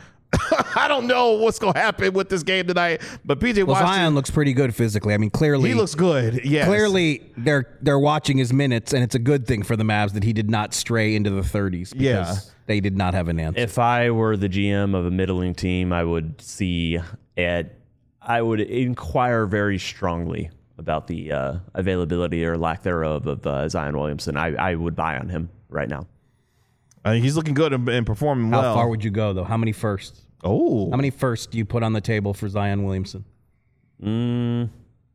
I don't know what's going to happen with this game tonight. But P J Well, Washington, Zion looks pretty good physically. I mean, clearly. he looks good. Yes. Clearly, they're they're watching his minutes, and it's a good thing for the Mavs that he did not stray into the thirties because Yeah. they did not have an answer. If I were the G M of a middling team, I would see it. I would inquire very strongly about the uh, availability or lack thereof of uh, Zion Williamson. I, I would buy on him right now. Uh, he's looking good and, and performing How well. far would you go, though? How many firsts? Oh. How many firsts do you put on the table for Zion Williamson? Mm,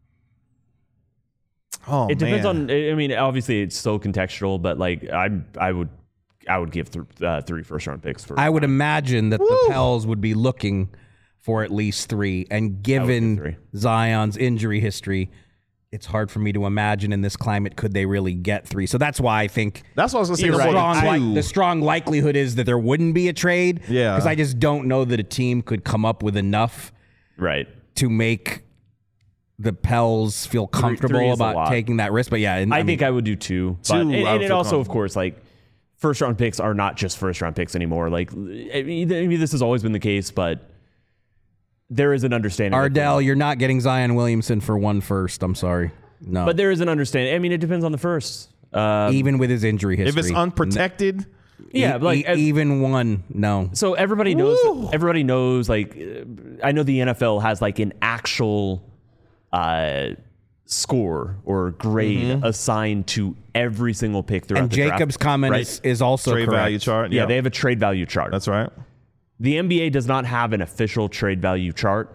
Oh, it depends man. on. I mean, obviously, it's so contextual, but like I, I would, I would give th- uh, three first round picks for. I would imagine that the Pels would be looking for at least three. And given three. Zion's injury history, it's hard for me to imagine in this climate could they really get three. So that's why I think That's what I was going to say. the, number strong, two. li- the strong likelihood is that there wouldn't be a trade. Yeah. Because I just don't know that a team could come up with enough right. to make the Pels feel comfortable three is a about lot. taking that risk. But yeah, and, I, I, think mean, I would do two. Two, But, and, I would and it feel also, of comfortable. course, like first round picks are not just first round picks anymore. Like, I mean, maybe this has always been the case, but there is an understanding. that- Ardell, you're not getting Zion Williamson for one first. I'm sorry. No. But there is an understanding. I mean, it depends on the first. Uh, even with his injury history. If it's unprotected, yeah, E- like e- even one, no. so everybody knows. Woo. Everybody knows. Like, uh, I know the N F L has like an actual uh, score or grade assigned to every single pick throughout And the draft, Jacob's comment right? is, is also trade correct. value chart. Yeah, they have a trade value chart. That's right. The N B A does not have an official trade value chart.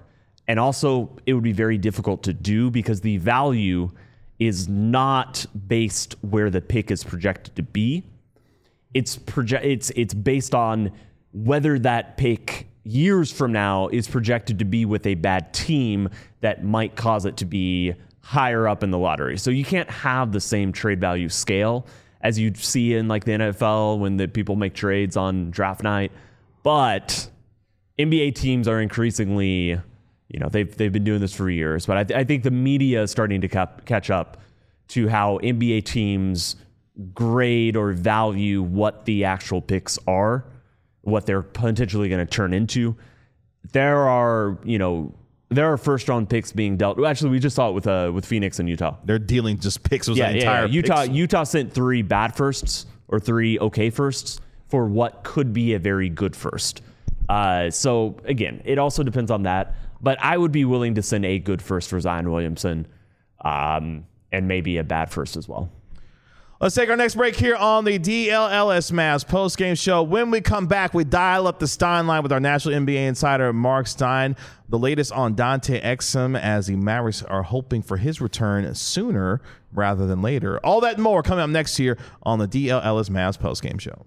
And also, it would be very difficult to do because the value is not based where the pick is projected to be. It's proje- it's it's based on whether that pick years from now is projected to be with a bad team that might cause it to be higher up in the lottery. So you can't have the same trade value scale as you'd see in like the N F L when the people make trades on draft night. But N B A teams are increasingly, you know, they've they've been doing this for years, but I, th- I think the media is starting to cap- catch up to how N B A teams grade or value what the actual picks are, what they're potentially going to turn into. There are, you know, there are first round picks being dealt. Actually, we just saw it with uh, with Phoenix and Utah. They're dealing just picks. Was Yeah, an yeah, entire yeah. Utah picks. Utah sent three bad firsts or three okay firsts for what could be a very good first. Uh, so again, it also depends on that. But I would be willing to send a good first for Zion Williamson, um, and maybe a bad first as well. Let's take our next break here on the D L L S Mavs post-game show. When we come back, we dial up the Stein line with our national N B A insider, Mark Stein. The latest on Dante Exum as the Mavericks are hoping for his return sooner rather than later. All that and more coming up next here on the D L L S Mavs post-game show.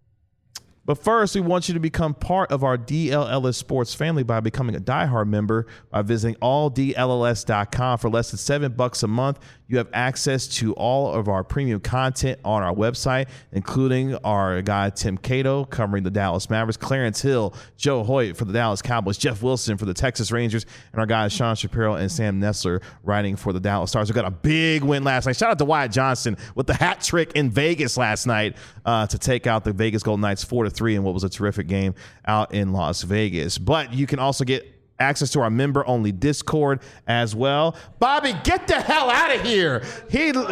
But first, we want you to become part of our D L L S sports family by becoming a diehard member by visiting all D L L S dot com. For less than seven bucks a month, you have access to all of our premium content on our website, including our guy Tim Cato covering the Dallas Mavericks, Clarence Hill, Joe Hoyt for the Dallas Cowboys, Jeff Wilson for the Texas Rangers, and our guys Sean Shapiro and Sam Nessler writing for the Dallas Stars. We got a big win last night. Shout out to Wyatt Johnson with the hat trick in Vegas last night uh, to take out the Vegas Golden Knights four to three in what was a terrific game out in Las Vegas. But you can also get access to our member-only Discord as well. Bobby, get the hell out of here. He, he lit,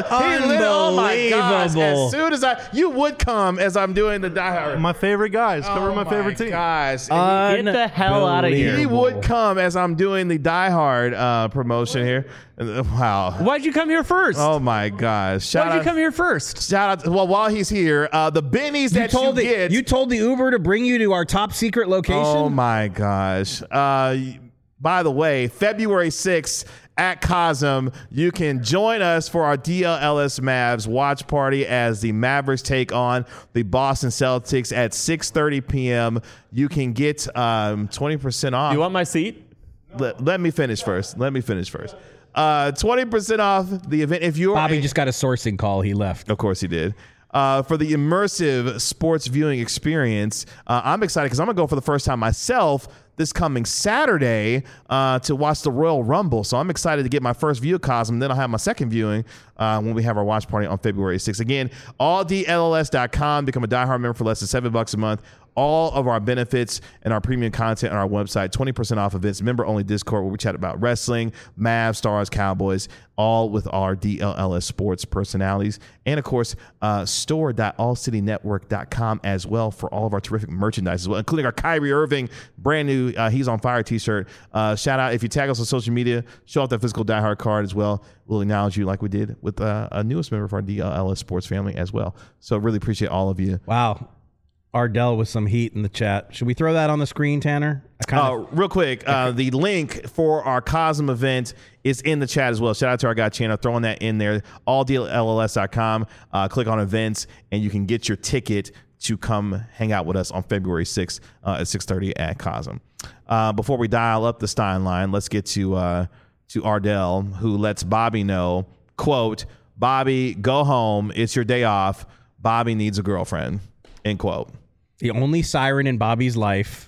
oh my gosh. As soon as I, you would come as I'm doing the Die Hard. My favorite guys, covering oh my favorite team. Gosh. Get the hell out of here. He would come as I'm doing the Die Hard uh, promotion here. Wow. Why'd you come here first? Oh my gosh. Shout Why'd you out, come here first? Shout out. Well, while he's here, uh, the bennies You that told you the get. you told the Uber to bring you to our top secret location. Oh my gosh. Uh, by the way, February sixth at Cosm, you can join us for our D L L S Mavs watch party as the Mavericks take on the Boston Celtics at six thirty p.m. You can get um, twenty percent off. You want my seat? Let, let me finish first. Let me finish first. Uh, twenty percent off the event. If you're Bobby a, just got a sourcing call. He left. Of course he did. Uh, for the immersive sports viewing experience, uh, I'm excited because I'm going to go for the first time myself this coming Saturday uh, to watch the Royal Rumble. So I'm excited to get my first view of Cosm. Then I'll have my second viewing uh, when we have our watch party on February sixth. Again, all D L L S dot com. Become a diehard member for less than seven bucks a month. All of our benefits and our premium content on our website, twenty percent off events, member-only Discord where we chat about wrestling, Mavs, Stars, Cowboys, all with our D L L S sports personalities. And, of course, uh, store dot all city network dot com as well for all of our terrific merchandise as well, including our Kyrie Irving brand new uh, He's on Fire t-shirt. Uh, shout out if you tag us on social media, show off that physical diehard card as well. We'll acknowledge you like we did with uh, a newest member of our D L L S sports family as well. So really appreciate all of you. Wow. Ardell with some heat in the chat. Should we throw that on the screen, Tanner? I kinda, Uh, real quick, uh, the link for our Cosm event is in the chat as well. Shout out to our guy Chandler throwing that in there. all D L L S dot com. Uh, click on events, and you can get your ticket to come hang out with us on February sixth uh, at six thirty at Cosm. Uh, before we dial up the Stein line, let's get to uh, to Ardell, who lets Bobby know, quote, Bobby, go home. It's your day off. Bobby needs a girlfriend, end quote. the only siren in Bobby's life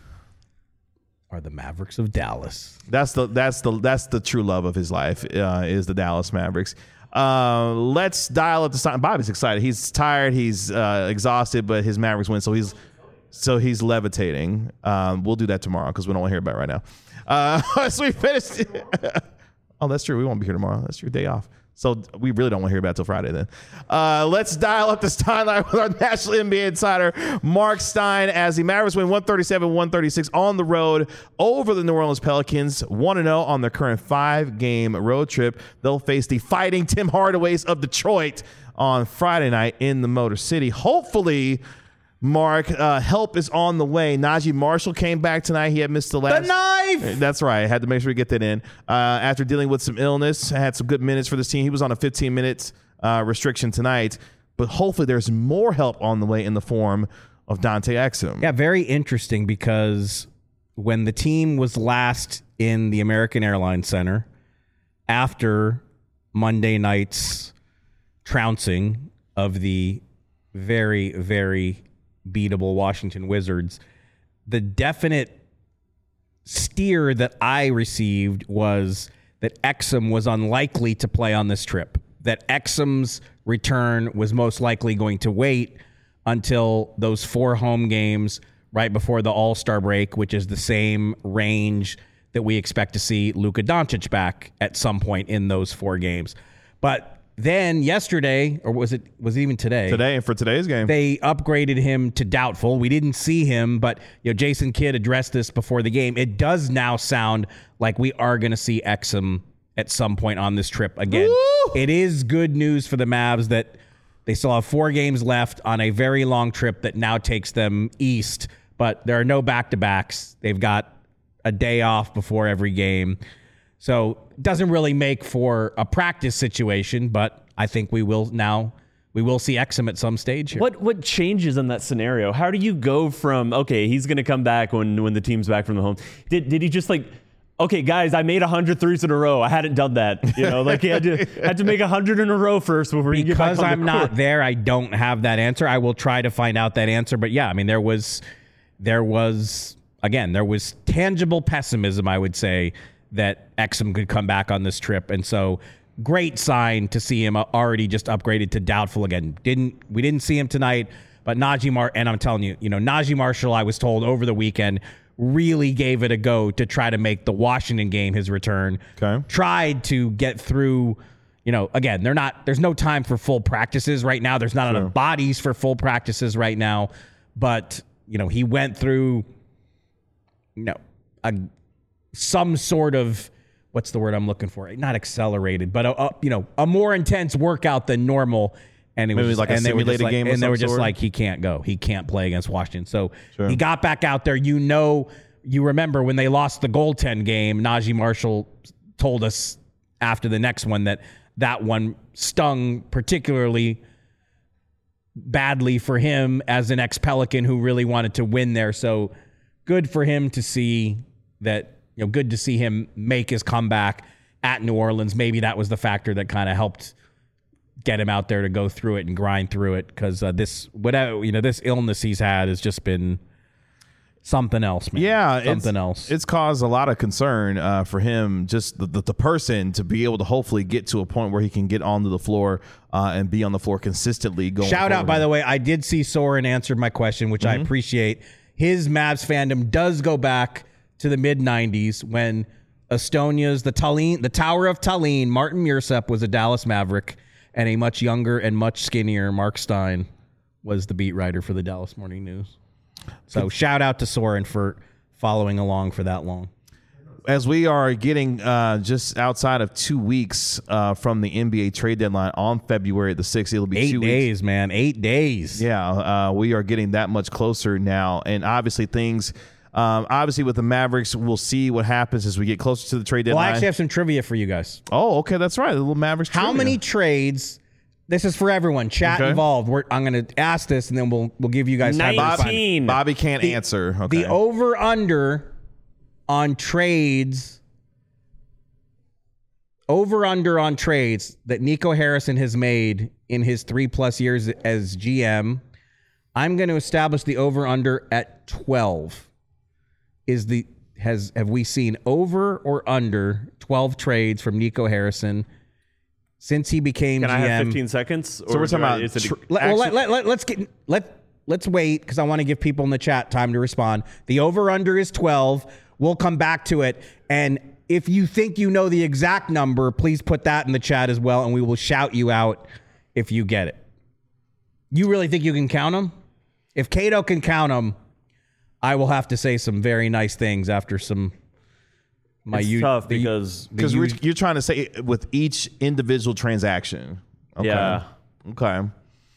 are the Mavericks of Dallas. That's the that's the that's the true love of his life uh, is the Dallas Mavericks. Uh, let's dial up the sign. Bobby's excited. He's tired. He's uh, exhausted, but his Mavericks win, so he's so he's levitating. Um, we'll do that tomorrow because we don't want to hear about it right now. Uh, so we finished. Oh, that's true. We won't be here tomorrow. That's your day off. So we really don't want to hear about it till Friday then. Uh, let's dial up the Stein line with our national N B A insider, Mark Stein, as the Mavericks win one thirty-seven one thirty-six on the road over the New Orleans Pelicans. one and oh on their current five-game road trip. They'll face the Fighting Tim Hardaways of Detroit on Friday night in the Motor City. Hopefully, Mark, uh, help is on the way. Najee Marshall came back tonight. He had missed the last. The knife! That's right. I had to make sure we get that in. Uh, after dealing with some illness, I had some good minutes for this team. He was on a fifteen minutes uh, restriction tonight. But hopefully there's more help on the way in the form of Dante Exum. Yeah, very interesting because when the team was last in the American Airlines Center after Monday night's trouncing of the very, very beatable Washington Wizards, the definite steer that I received was that Exum was unlikely to play on this trip, that Exum's return was most likely going to wait until those four home games right before the All-Star break, which is the same range that we expect to see Luka Doncic back at some point in those four games. But then yesterday, or was it was it even today? Today, and for today's game. They upgraded him to doubtful. We didn't see him, but you know, Jason Kidd addressed this before the game. It does now sound like we are going to see Exum at some point on this trip again. Woo! It is good news for the Mavs that they still have four games left on a very long trip that now takes them east, but there are no back-to-backs. They've got a day off before every game. So it doesn't really make for a practice situation, but I think we will now we will see Exum at some stage here. What what changes in that scenario? How do you go from, okay, he's going to come back when when the team's back from the home? Did did he just like, okay, guys, I made one hundred threes in a row. I hadn't done that. You know, like he had to had to make one hundred in a row first before you get back on Because the I'm court. not there, I don't have that answer. I will try to find out that answer. But yeah, I mean, there was there was again, there was tangible pessimism, I would say, that Exum could come back on this trip. And so great sign to see him already just upgraded to doubtful again. Didn't we didn't see him tonight, but Najee Mar and I'm telling you, you know, Najee Marshall, I was told over the weekend, really gave it a go to try to make the Washington game his return. Okay. Tried to get through, you know, again, they're not there's no time for full practices right now. There's not Sure. enough bodies for full practices right now. But, you know, he went through, you know, a some sort of, what's the word I'm looking for? Not accelerated, but a, a you know a more intense workout than normal. And it Maybe was like a and they were just simulated like, game of and they some were just sort? like, he can't go, he can't play against Washington. So Sure. he got back out there. You know, you remember when they lost the goaltend game, Najee Marshall told us after the next one that that one stung particularly badly for him as an ex-Pelican who really wanted to win there. So good for him to see that. You know, good to see him make his comeback at New Orleans. Maybe that was the factor that kind of helped get him out there to go through it and grind through it. Because uh, this, whatever you know, this illness he's had has just been something else, man. Yeah, something it's, else. It's caused a lot of concern uh, for him, just the, the, the person to be able to hopefully get to a point where he can get onto the floor uh, and be on the floor consistently. Going Shout out, forward. by the way, I did see Soren answered my question, which Mm-hmm. I appreciate. His Mavs fandom does go back to the mid nineties when Estonia's the Tallinn, the Tower of Tallinn, Martin Mursep was a Dallas Maverick, and a much younger and much skinnier Mark Stein was the beat writer for the Dallas Morning News. So shout out to Soren for following along for that long. As we are getting uh, just outside of two weeks uh, from the N B A trade deadline on February the sixth, it'll be Eight two days, weeks. man. Eight days. Yeah, uh, we are getting that much closer now, and obviously things. Um, obviously, with the Mavericks, we'll see what happens as we get closer to the trade Well, deadline. I actually have some trivia for you guys. oh, okay, that's right. The little Mavericks. How trivia. many trades? This is for everyone. Chat Okay. involved. We're, I'm going to ask this, and then we'll we'll give you guys time to respond. nineteen. Bobby can't The- answer. Okay. The over under on trades, over under on trades that Nico Harrison has made in his three plus years as G M. I'm going to establish the over under at twelve. Is the has have we seen over or under twelve trades from Nico Harrison since he became Can G M? I have fifteen seconds? So we're talking do I- about is it a- tr- Let, well, let, Actually- let, let, let's get let let's wait because I want to give people in the chat time to respond. The over under is twelve. We'll come back to it, and if you think you know the exact number, please put that in the chat as well, and we will shout you out if you get it. You really think you can count them? If Cato can count them, I will have to say some very nice things after some. My it's u- tough the- because because the we're u- you're trying to say with each individual transaction. Okay. Yeah. Okay.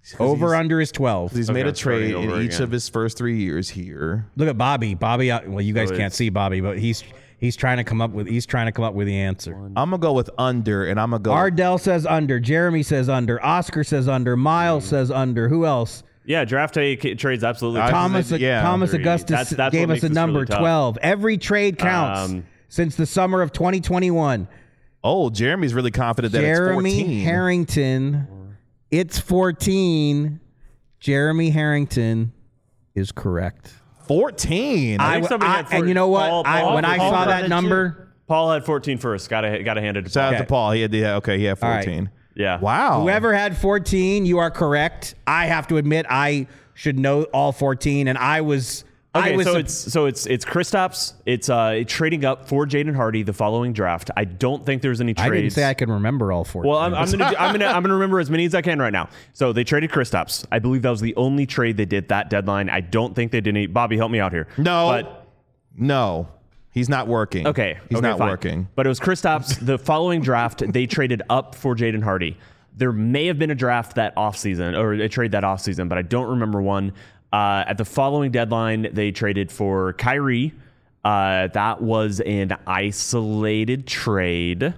Over under is twelve. He's Okay, made a trade starting in over each again. of his first three years here. Look at Bobby. Bobby. uh, Well, you guys So can't it's- see Bobby, but he's he's trying to come up with he's trying to come up with the answer. I'm gonna go with under, and I'm gonna go. Ardell says under. Jeremy says under. Oscar says under. Miles says under. Who else? Yeah, draft day ca- trades absolutely. I- Thomas. yeah. Thomas Agreed. Augustus That's- that's gave what us a makes this number really tough. twelve. Every trade counts Um, since the summer of twenty twenty-one. Oh, Jeremy's really confident that Jeremy it's fourteen. Harrington. It's fourteen. Jeremy Harrington is correct. fourteen. I, think somebody I- had and four- you know what? Paul- I, Paul- when I Paul saw had that it number, Paul had fourteen first. Got to got to hand it to Paul. Shout out Okay. to Paul. He had, yeah, okay, he had All right. fourteen. Yeah. Wow. whoever had fourteen, you are correct. I have to admit, I should know all fourteen, and I was. Okay, I was so sup- it's so it's it's Kristaps. It's uh trading up for Jaden Hardy the following draft. I don't think there's any I trades. didn't say I can remember all fourteen. Well, I'm, I'm gonna do, I'm gonna I'm gonna remember as many as I can right now. So they traded Kristaps. I believe that was the only trade they did that deadline. I don't think they did any. Bobby, help me out here. No. but No. He's not working. okay, He's okay, not fine. working. But it was Kristaps. The following draft, they traded up for Jaden Hardy. There may have been a draft that offseason or a trade that offseason, but I don't remember one. Uh, at the following deadline, they traded for Kyrie. Uh, that was an isolated trade.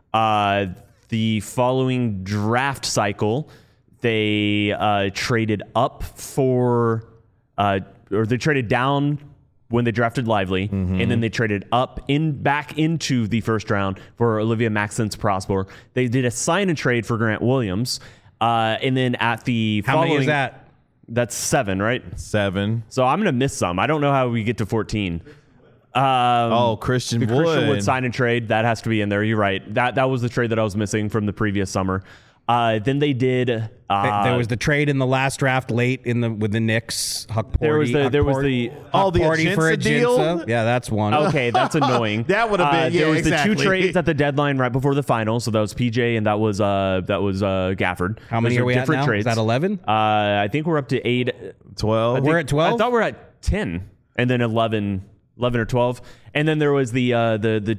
Uh, the following draft cycle, they uh, traded up for, uh, or they traded down when they drafted Lively, and then they traded up in back into the first round for Olivia Maxence Prosper. They did a sign and trade for Grant Williams, uh, and then at the How following, many is that? That's seven, right? Seven. So I'm gonna miss some. I don't know how we get to fourteen. Um, Oh, Christian the Wood. Christian Wood sign and trade that has to be in there. You're right. That that was the trade that I was missing from the previous summer. Uh, then they did. Uh, there was the trade in the last draft late in the with the Knicks. Huck there was Porty- the there was Huck the. Oh, the Porty for Ajinça deal? Ajinça. Yeah, that's one. Okay, that's annoying. That would've been- Uh, yeah, there was exactly. the two trades at the deadline right before the final. So that was P J and that was uh that was uh Gafford. How many Those are we at different now? Trades. Is that eleven? Uh, I think we're up to eight. twelve. I think- We're at twelve? I thought we we're at ten, and then eleven, eleven or twelve, and then there was the uh, the the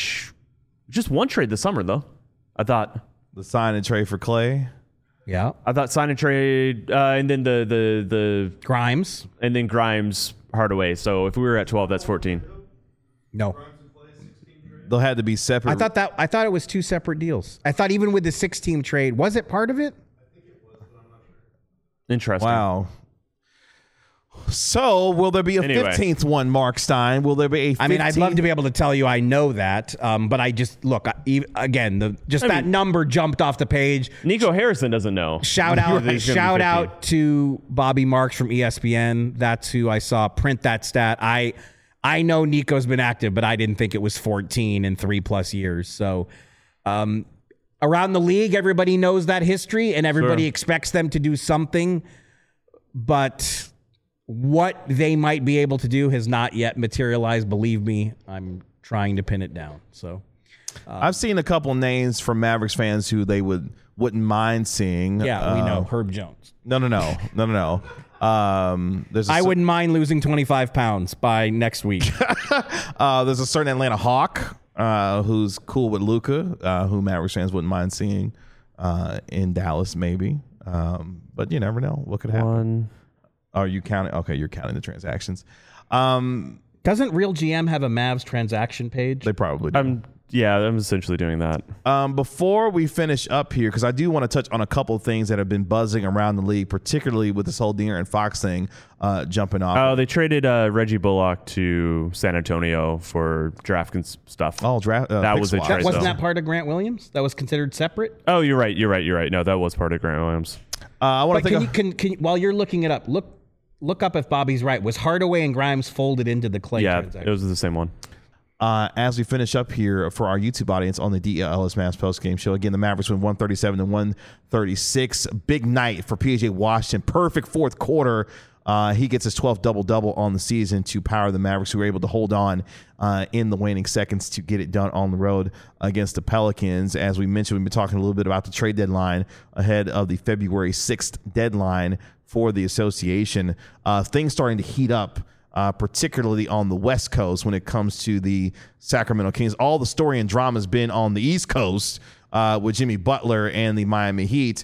just one trade this summer though. I thought The sign and trade for Clay. Yeah. I thought sign and trade, uh, and then the the the Grimes. and then Grimes Hardaway. So if we were at twelve, that's fourteen. No. They'll have to be separate. I thought that I thought it was two separate deals. I thought even with the six team trade, was it part of it? Interesting. Wow. So, will there be a Anyway. fifteenth one, Mark Stein? Will there be a fifteenth? I mean, I'd love to be able to tell you I know that, um, but I just look I, e- again. The just I that mean- number jumped off the page. Nico Harrison doesn't know. Shout out, He's gonna be shout fifteen. out to Bobby Marks from E S P N. That's who I saw print that stat. I I know Nico's been active, but I didn't think it was fourteen in three plus years. So, um, around the league, everybody knows that history, and everybody Sure. expects them to do something. But what they might be able to do has not yet materialized. Believe me, I'm trying to pin it down. So, I've seen a couple names from Mavericks fans who they would wouldn't mind seeing. yeah, we Uh, know Herb Jones. No, no, no, no, no, no. Um, there's a I cer- wouldn't mind losing twenty-five pounds by next week. Uh, there's a certain Atlanta Hawk uh, who's cool with Luka, uh, who Mavericks fans wouldn't mind seeing uh, in Dallas, maybe. Um, but you never know what could happen. One. Are you counting? Okay, you're counting the transactions. Um, Doesn't Real G M have a Mavs transaction page? they probably do. I'm yeah. I'm essentially doing that. Um, before we finish up here, because I do want to touch on a couple of things that have been buzzing around the league, particularly with this whole De'Aaron Fox thing uh, jumping off. Oh, they traded uh, Reggie Bullock to San Antonio for draft cons- stuff. Oh, draft. Uh, That pick was a swap. trade. Wasn't though. that part of Grant Williams? That was considered separate? Oh, you're right. You're right. You're right. No, that was part of Grant Williams. Uh, I want But to can think. you, of- can, can, while you're looking it up, look look up if Bobby's right. Was Hardaway and Grimes folded into the Clay Yeah, transaction? it was the same one. Uh, as we finish up here for our YouTube audience on the D L S Mavs post game show, again, the Mavericks win one thirty-seven to one thirty-six. Big night for P J Washington. Perfect fourth quarter. Uh, he gets his twelfth double-double on the season to power the Mavericks, who were able to hold on uh, in the waning seconds to get it done on the road against the Pelicans. As we mentioned, we've been talking a little bit about the trade deadline ahead of the February sixth deadline for the association. Uh, things starting to heat up, uh, particularly on the West Coast when it comes to the Sacramento Kings. All the story and drama has been on the East Coast uh, with Jimmy Butler and the Miami Heat.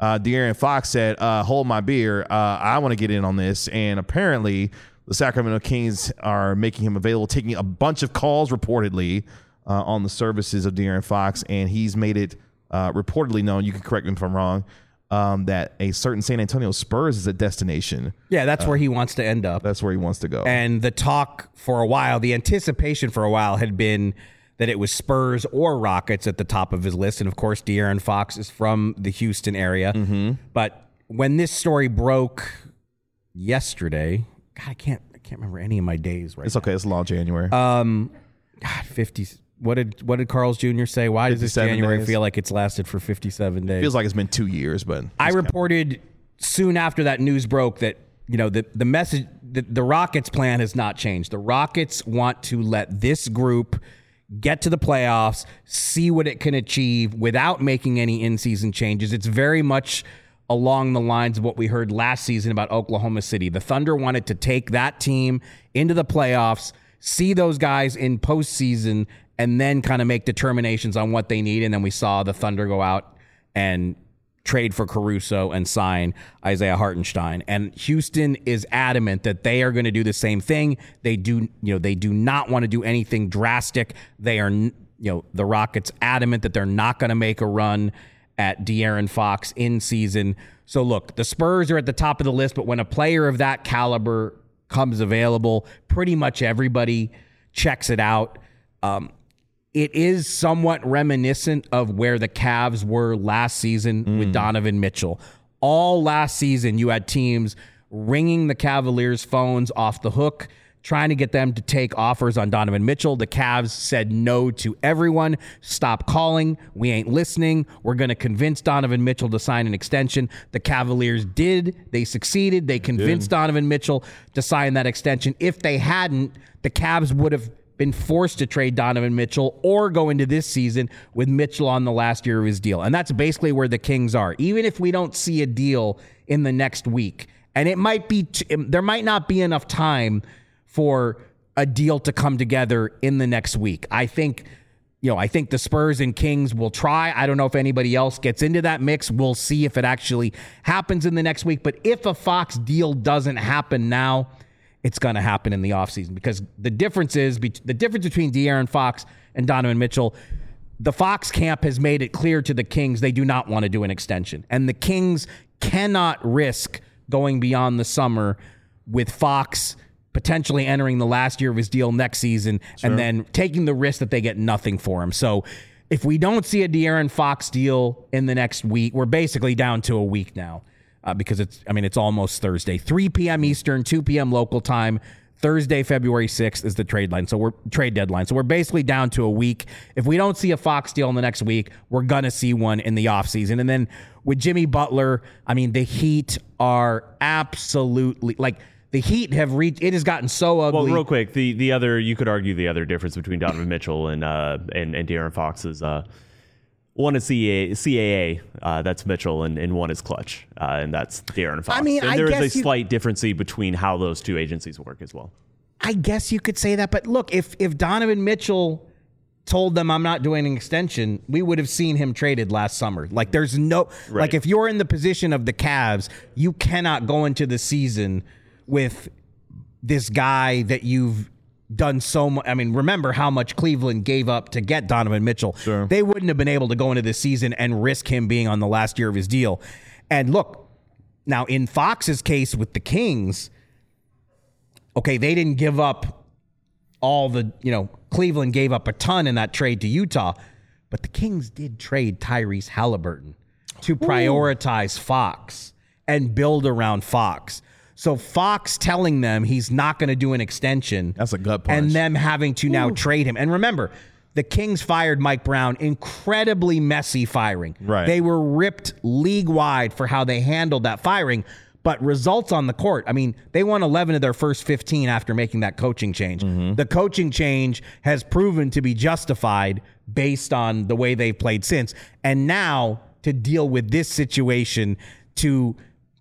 uh, De'Aaron Fox said, uh, hold my beer. Uh, I want to get in on this. And apparently the Sacramento Kings are making him available, taking a bunch of calls reportedly uh, on the services of De'Aaron Fox. And he's made it uh, reportedly known, you can correct me if I'm wrong, um, that a certain San Antonio Spurs is a destination. Yeah, that's uh, where he wants to end up. That's where he wants to go. And the talk for a while, the anticipation for a while had been that it was Spurs or Rockets at the top of his list. And of course, De'Aaron Fox is from the Houston area. Mm-hmm. But when this story broke yesterday, God, I can't, I can't remember any of my days right It's now. okay. It's long January. Um, God, fifty. What did what did Carl's Junior say? Why does this January days. feel like it's lasted for fifty-seven days? Feels like it's been two years, but I reported soon after that news broke that, you know, the, the message, the, the Rockets plan has not changed. The Rockets want to let this group get to the playoffs, see what it can achieve without making any in-season changes. It's very much along the lines of what we heard last season about Oklahoma City. The Thunder wanted to take that team into the playoffs, see those guys in postseason, and then kind of make determinations on what they need. And then we saw the Thunder go out and trade for Caruso and sign Isaiah Hartenstein. And Houston is adamant that they are going to do the same thing. They do, you know, they do not want to do anything drastic. They are, you know, the Rockets adamant that they're not going to make a run at De'Aaron Fox in season. So look, the Spurs are at the top of the list, but when a player of that caliber comes available, pretty much everybody checks it out. Um, It is somewhat reminiscent of where the Cavs were last season mm. with Donovan Mitchell. All last season, you had teams ringing the Cavaliers' phones off the hook, trying to get them to take offers on Donovan Mitchell. The Cavs said no to everyone. Stop calling. We ain't listening. We're going to convince Donovan Mitchell to sign an extension. The Cavaliers did. They succeeded. They convinced did. Donovan Mitchell to sign that extension. If they hadn't, the Cavs would have been forced to trade Donovan Mitchell or go into this season with Mitchell on the last year of his deal. And that's basically where the Kings are. Even if we don't see a deal in the next week, and it might be, t- there might not be enough time for a deal to come together in the next week. I think, you know, I think the Spurs and Kings will try. I don't know if anybody else gets into that mix. We'll see if it actually happens in the next week. But if a Fox deal doesn't happen now, it's going to happen in the offseason, because the difference is be- the difference between De'Aaron Fox and Donovan Mitchell. The Fox camp has made it clear to the Kings they do not want to do an extension, and the Kings cannot risk going beyond the summer with Fox potentially entering the last year of his deal next season sure. and then taking the risk that they get nothing for him. So if we don't see a De'Aaron Fox deal in the next week, we're basically down to a week now. Uh, because it's, I mean, it's almost Thursday. three p.m. Eastern, two p.m. local time. Thursday, February sixth is the trade line. So we're trade deadline. So we're basically down to a week. If we don't see a Fox deal in the next week, we're going to see one in the offseason. And then with Jimmy Butler, I mean, the Heat are absolutely, like, the Heat have reached, it has gotten so ugly. Well, real quick, the the other, you could argue the other difference between Donovan Mitchell and uh and, and De'Aaron Fox is uh one is C A A, C A A uh, that's Mitchell, and, and one is Clutch, uh, and that's De'Aaron Fox. I mean, and I there is guess a you, slight difference between how those two agencies work as well. I guess you could say that, but look, if if Donovan Mitchell told them I'm not doing an extension, we would have seen him traded last summer. Like, there's no, right. like, if you're in the position of the Cavs, you cannot go into the season with this guy that you've done so much. I mean, remember how much Cleveland gave up to get Donovan Mitchell. Sure. They wouldn't have been able to go into this season and risk him being on the last year of his deal. And look, now in Fox's case with the Kings, okay, they didn't give up all the, you know, Cleveland gave up a ton in that trade to Utah, but the Kings did trade Tyrese Halliburton to prioritize Ooh. Fox and build around Fox. So Fox telling them he's not going to do an extension. That's a gut punch. And them having to now Ooh. trade him. And remember, the Kings fired Mike Brown. Incredibly messy firing. Right. They were ripped league-wide for how they handled that firing. But results on the court, I mean, they won eleven of their first fifteen after making that coaching change. Mm-hmm. The coaching change has proven to be justified based on the way they've played since. And now to deal with this situation, to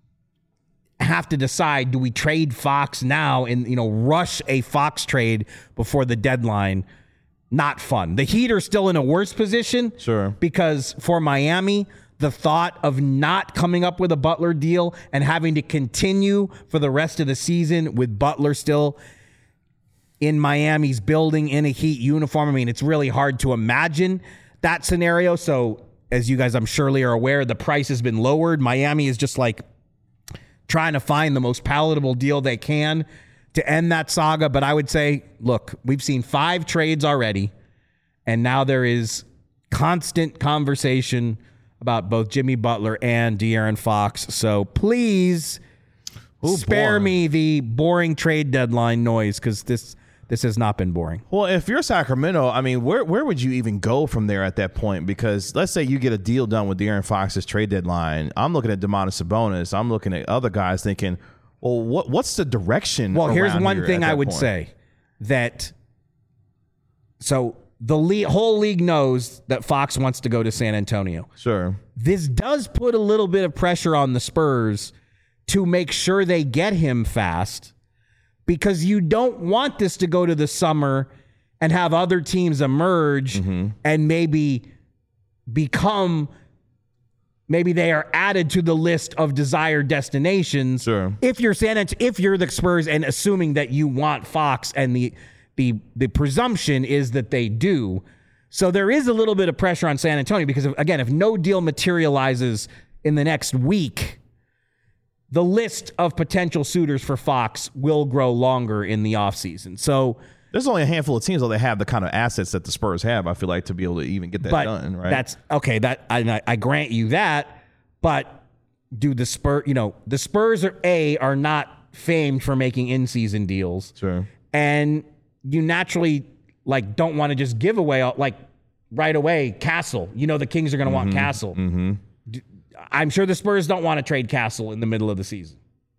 have to decide, do we trade Fox now and, you know, rush a Fox trade before the deadline? Not fun. The Heat are still in a worse position. Sure. Because for Miami, the thought of not coming up with a Butler deal and having to continue for the rest of the season with Butler still in Miami's building in a Heat uniform. I mean, it's really hard to imagine that scenario. So as you guys, I'm surely are aware, the price has been lowered. Miami is just like trying to find the most palatable deal they can to end that saga. But I would say, look, we've seen five trades already, and now there is constant conversation about both Jimmy Butler and De'Aaron Fox. So please Ooh, spare boy. me the boring trade deadline noise, because this this has not been boring. Well, if you're Sacramento, I mean, where where would you even go from there at that point? Because let's say you get a deal done with De'Aaron Fox's trade deadline. I'm looking at Domantas Sabonis. I'm looking at other guys thinking, well, what what's the direction? Well, here's one here thing I would point? say that so the le- whole league knows that Fox wants to go to San Antonio. Sure. This does put a little bit of pressure on the Spurs to make sure they get him fast, because you don't want this to go to the summer and have other teams emerge mm-hmm. and maybe become, maybe they are added to the list of desired destinations. Sure. If you're San Ant- if you're the Spurs, and assuming that you want Fox, and the the the presumption is that they do. So there is a little bit of pressure on San Antonio, because if, again, if no deal materializes in the next week, the list of potential suitors for Fox will grow longer in the offseason. So there's only a handful of teams that have the kind of assets that the Spurs have, I feel like, to be able to even get that but done, right? That's okay. That I, I grant you that, but do the Spurs, you know, the Spurs are a are not famed for making in-season deals. Sure. And you naturally like don't want to just give away like right away Castle. You know the Kings are going to mm-hmm. want Castle. Mm-hmm. I'm sure the Spurs don't want to trade Castle in the middle of the season.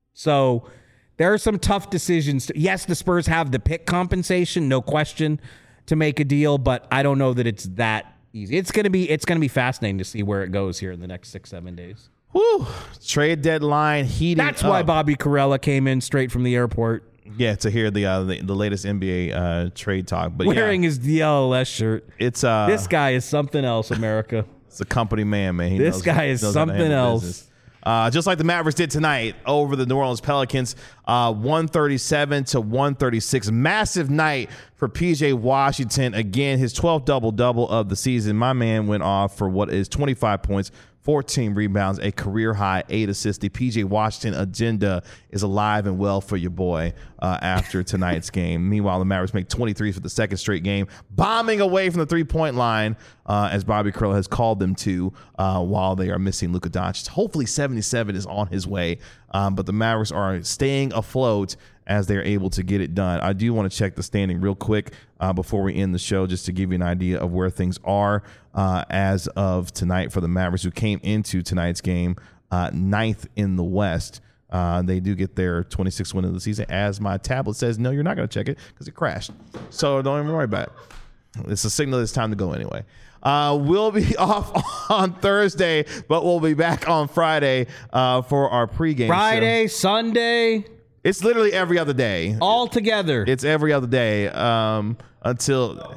So there are some tough decisions. To, yes, the Spurs have the pick compensation, no question, to make a deal, but I don't know that it's that easy. It's gonna be it's gonna be fascinating to see where it goes here in the next six, seven days. Woo! Trade deadline heating That's up. why Bobby Carella came in straight from the airport. Yeah, to hear the uh, the, the latest N B A uh, trade talk. But wearing yeah, his D L S shirt. It's uh, this guy is something else, America. It's a company man, man. He this knows, guy is something else. Uh, just like the Mavericks did tonight over the New Orleans Pelicans, uh, one thirty-seven to one thirty-six. Massive night for P J Washington. Again, his twelfth double-double of the season. My man went off for what is twenty-five points, fourteen rebounds, a career-high eight assists. The P J Washington agenda is alive and well for your boy uh, after tonight's game. Meanwhile, the Mavericks make twenty-three for the second straight game, bombing away from the three-point line, uh, as Bobby Carroll has called them to, uh, while they are missing Luka Doncic. Hopefully seventy-seven is on his way, um, but the Mavericks are staying afloat as they're able to get it done. I do want to check the standing real quick uh, before we end the show, just to give you an idea of where things are uh, as of tonight for the Mavericks, who came into tonight's game uh, ninth in the West. Uh, they do get their twenty-sixth win of the season, as my tablet says, no, you're not going to check it because it crashed. So don't even worry about it. It's a signal it's time to go anyway. Uh, we'll be off on Thursday, but we'll be back on Friday uh, for our pregame Friday, show. Sunday. It's literally every other day. All together. It's every other day um, until...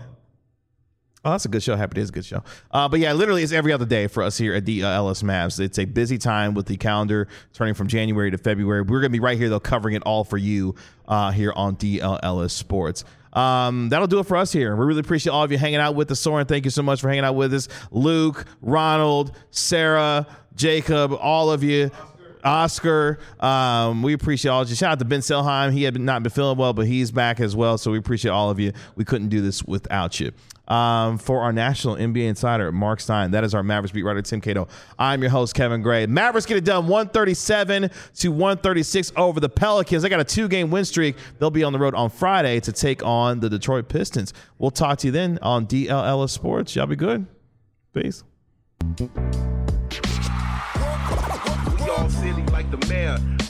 Oh, that's a good show. Happy Days is a good show. Uh, but yeah, literally it's every other day for us here at the uh, L S Mavs. It's a busy time with the calendar turning from January to February. We're going to be right here, though, covering it all for you uh, here on D L L S Sports. Um, that'll do it for us here. We really appreciate all of you hanging out with us. Soren, thank you so much for hanging out with us. Luke, Ronald, Sarah, Jacob, all of you. Oscar, um, we appreciate all of you. Shout out to Ben Selheim. He had been, not been feeling well, but he's back as well. So we appreciate all of you. We couldn't do this without you. Um, for our national N B A insider, Mark Stein, that is our Mavericks beat writer, Tim Cato. I'm your host, Kevin Gray. Mavericks get it done one thirty-seven to one thirty-six over the Pelicans. They got a two-game win streak. They'll be on the road on Friday to take on the Detroit Pistons. We'll talk to you then on D L L S Sports. Y'all be good. Peace. Silly like the mayor.